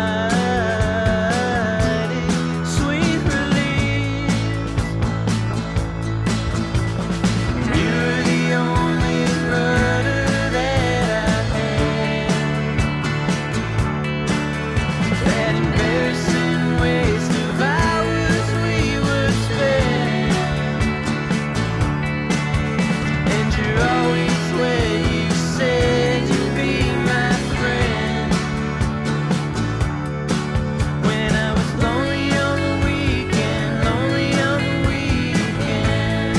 Sweet release. You're the only rudder that I had. That embarrassing waste of hours we were spent. And you're always where you said you'd be my friend. When I was lonely on the weekend, lonely on the weekend.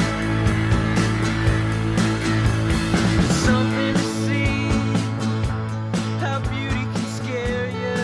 It's something to see how beauty can scare you.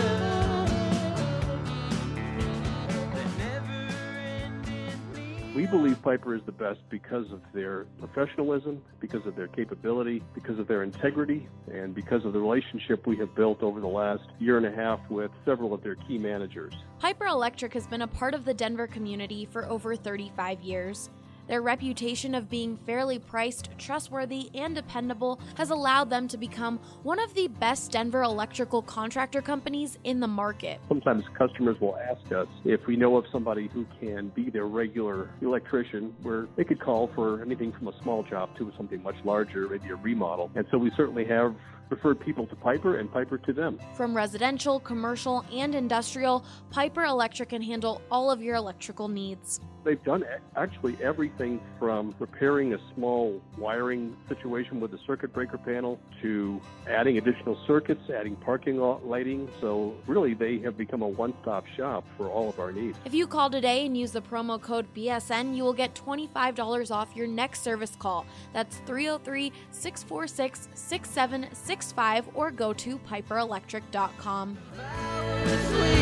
The never-ending need. We believe Piper is the best because of their professionalism, because of their capability, because of their integrity, and because of the relationship we have built over the last year and a half with several of their key managers. Piper Electric has been a part of the Denver community for over thirty-five years. Their reputation of being fairly priced, trustworthy, and dependable has allowed them to become one of the best Denver electrical contractor companies in the market. Sometimes customers will ask us if we know of somebody who can be their regular electrician, where they could call for anything from a small job to something much larger, maybe a remodel. And so we certainly have referred people to Piper and Piper to them. From residential, commercial, and industrial, Piper Electric can handle all of your electrical needs. They've done actually everything from repairing a small wiring situation with a circuit breaker panel to adding additional circuits, adding parking lot lighting. So really, they have become a one-stop shop for all of our needs. If you call today and use the promo code B S N, you will get twenty-five dollars off your next service call. That's three oh three, six four six, six seven six five or go to piper electric dot com. If I was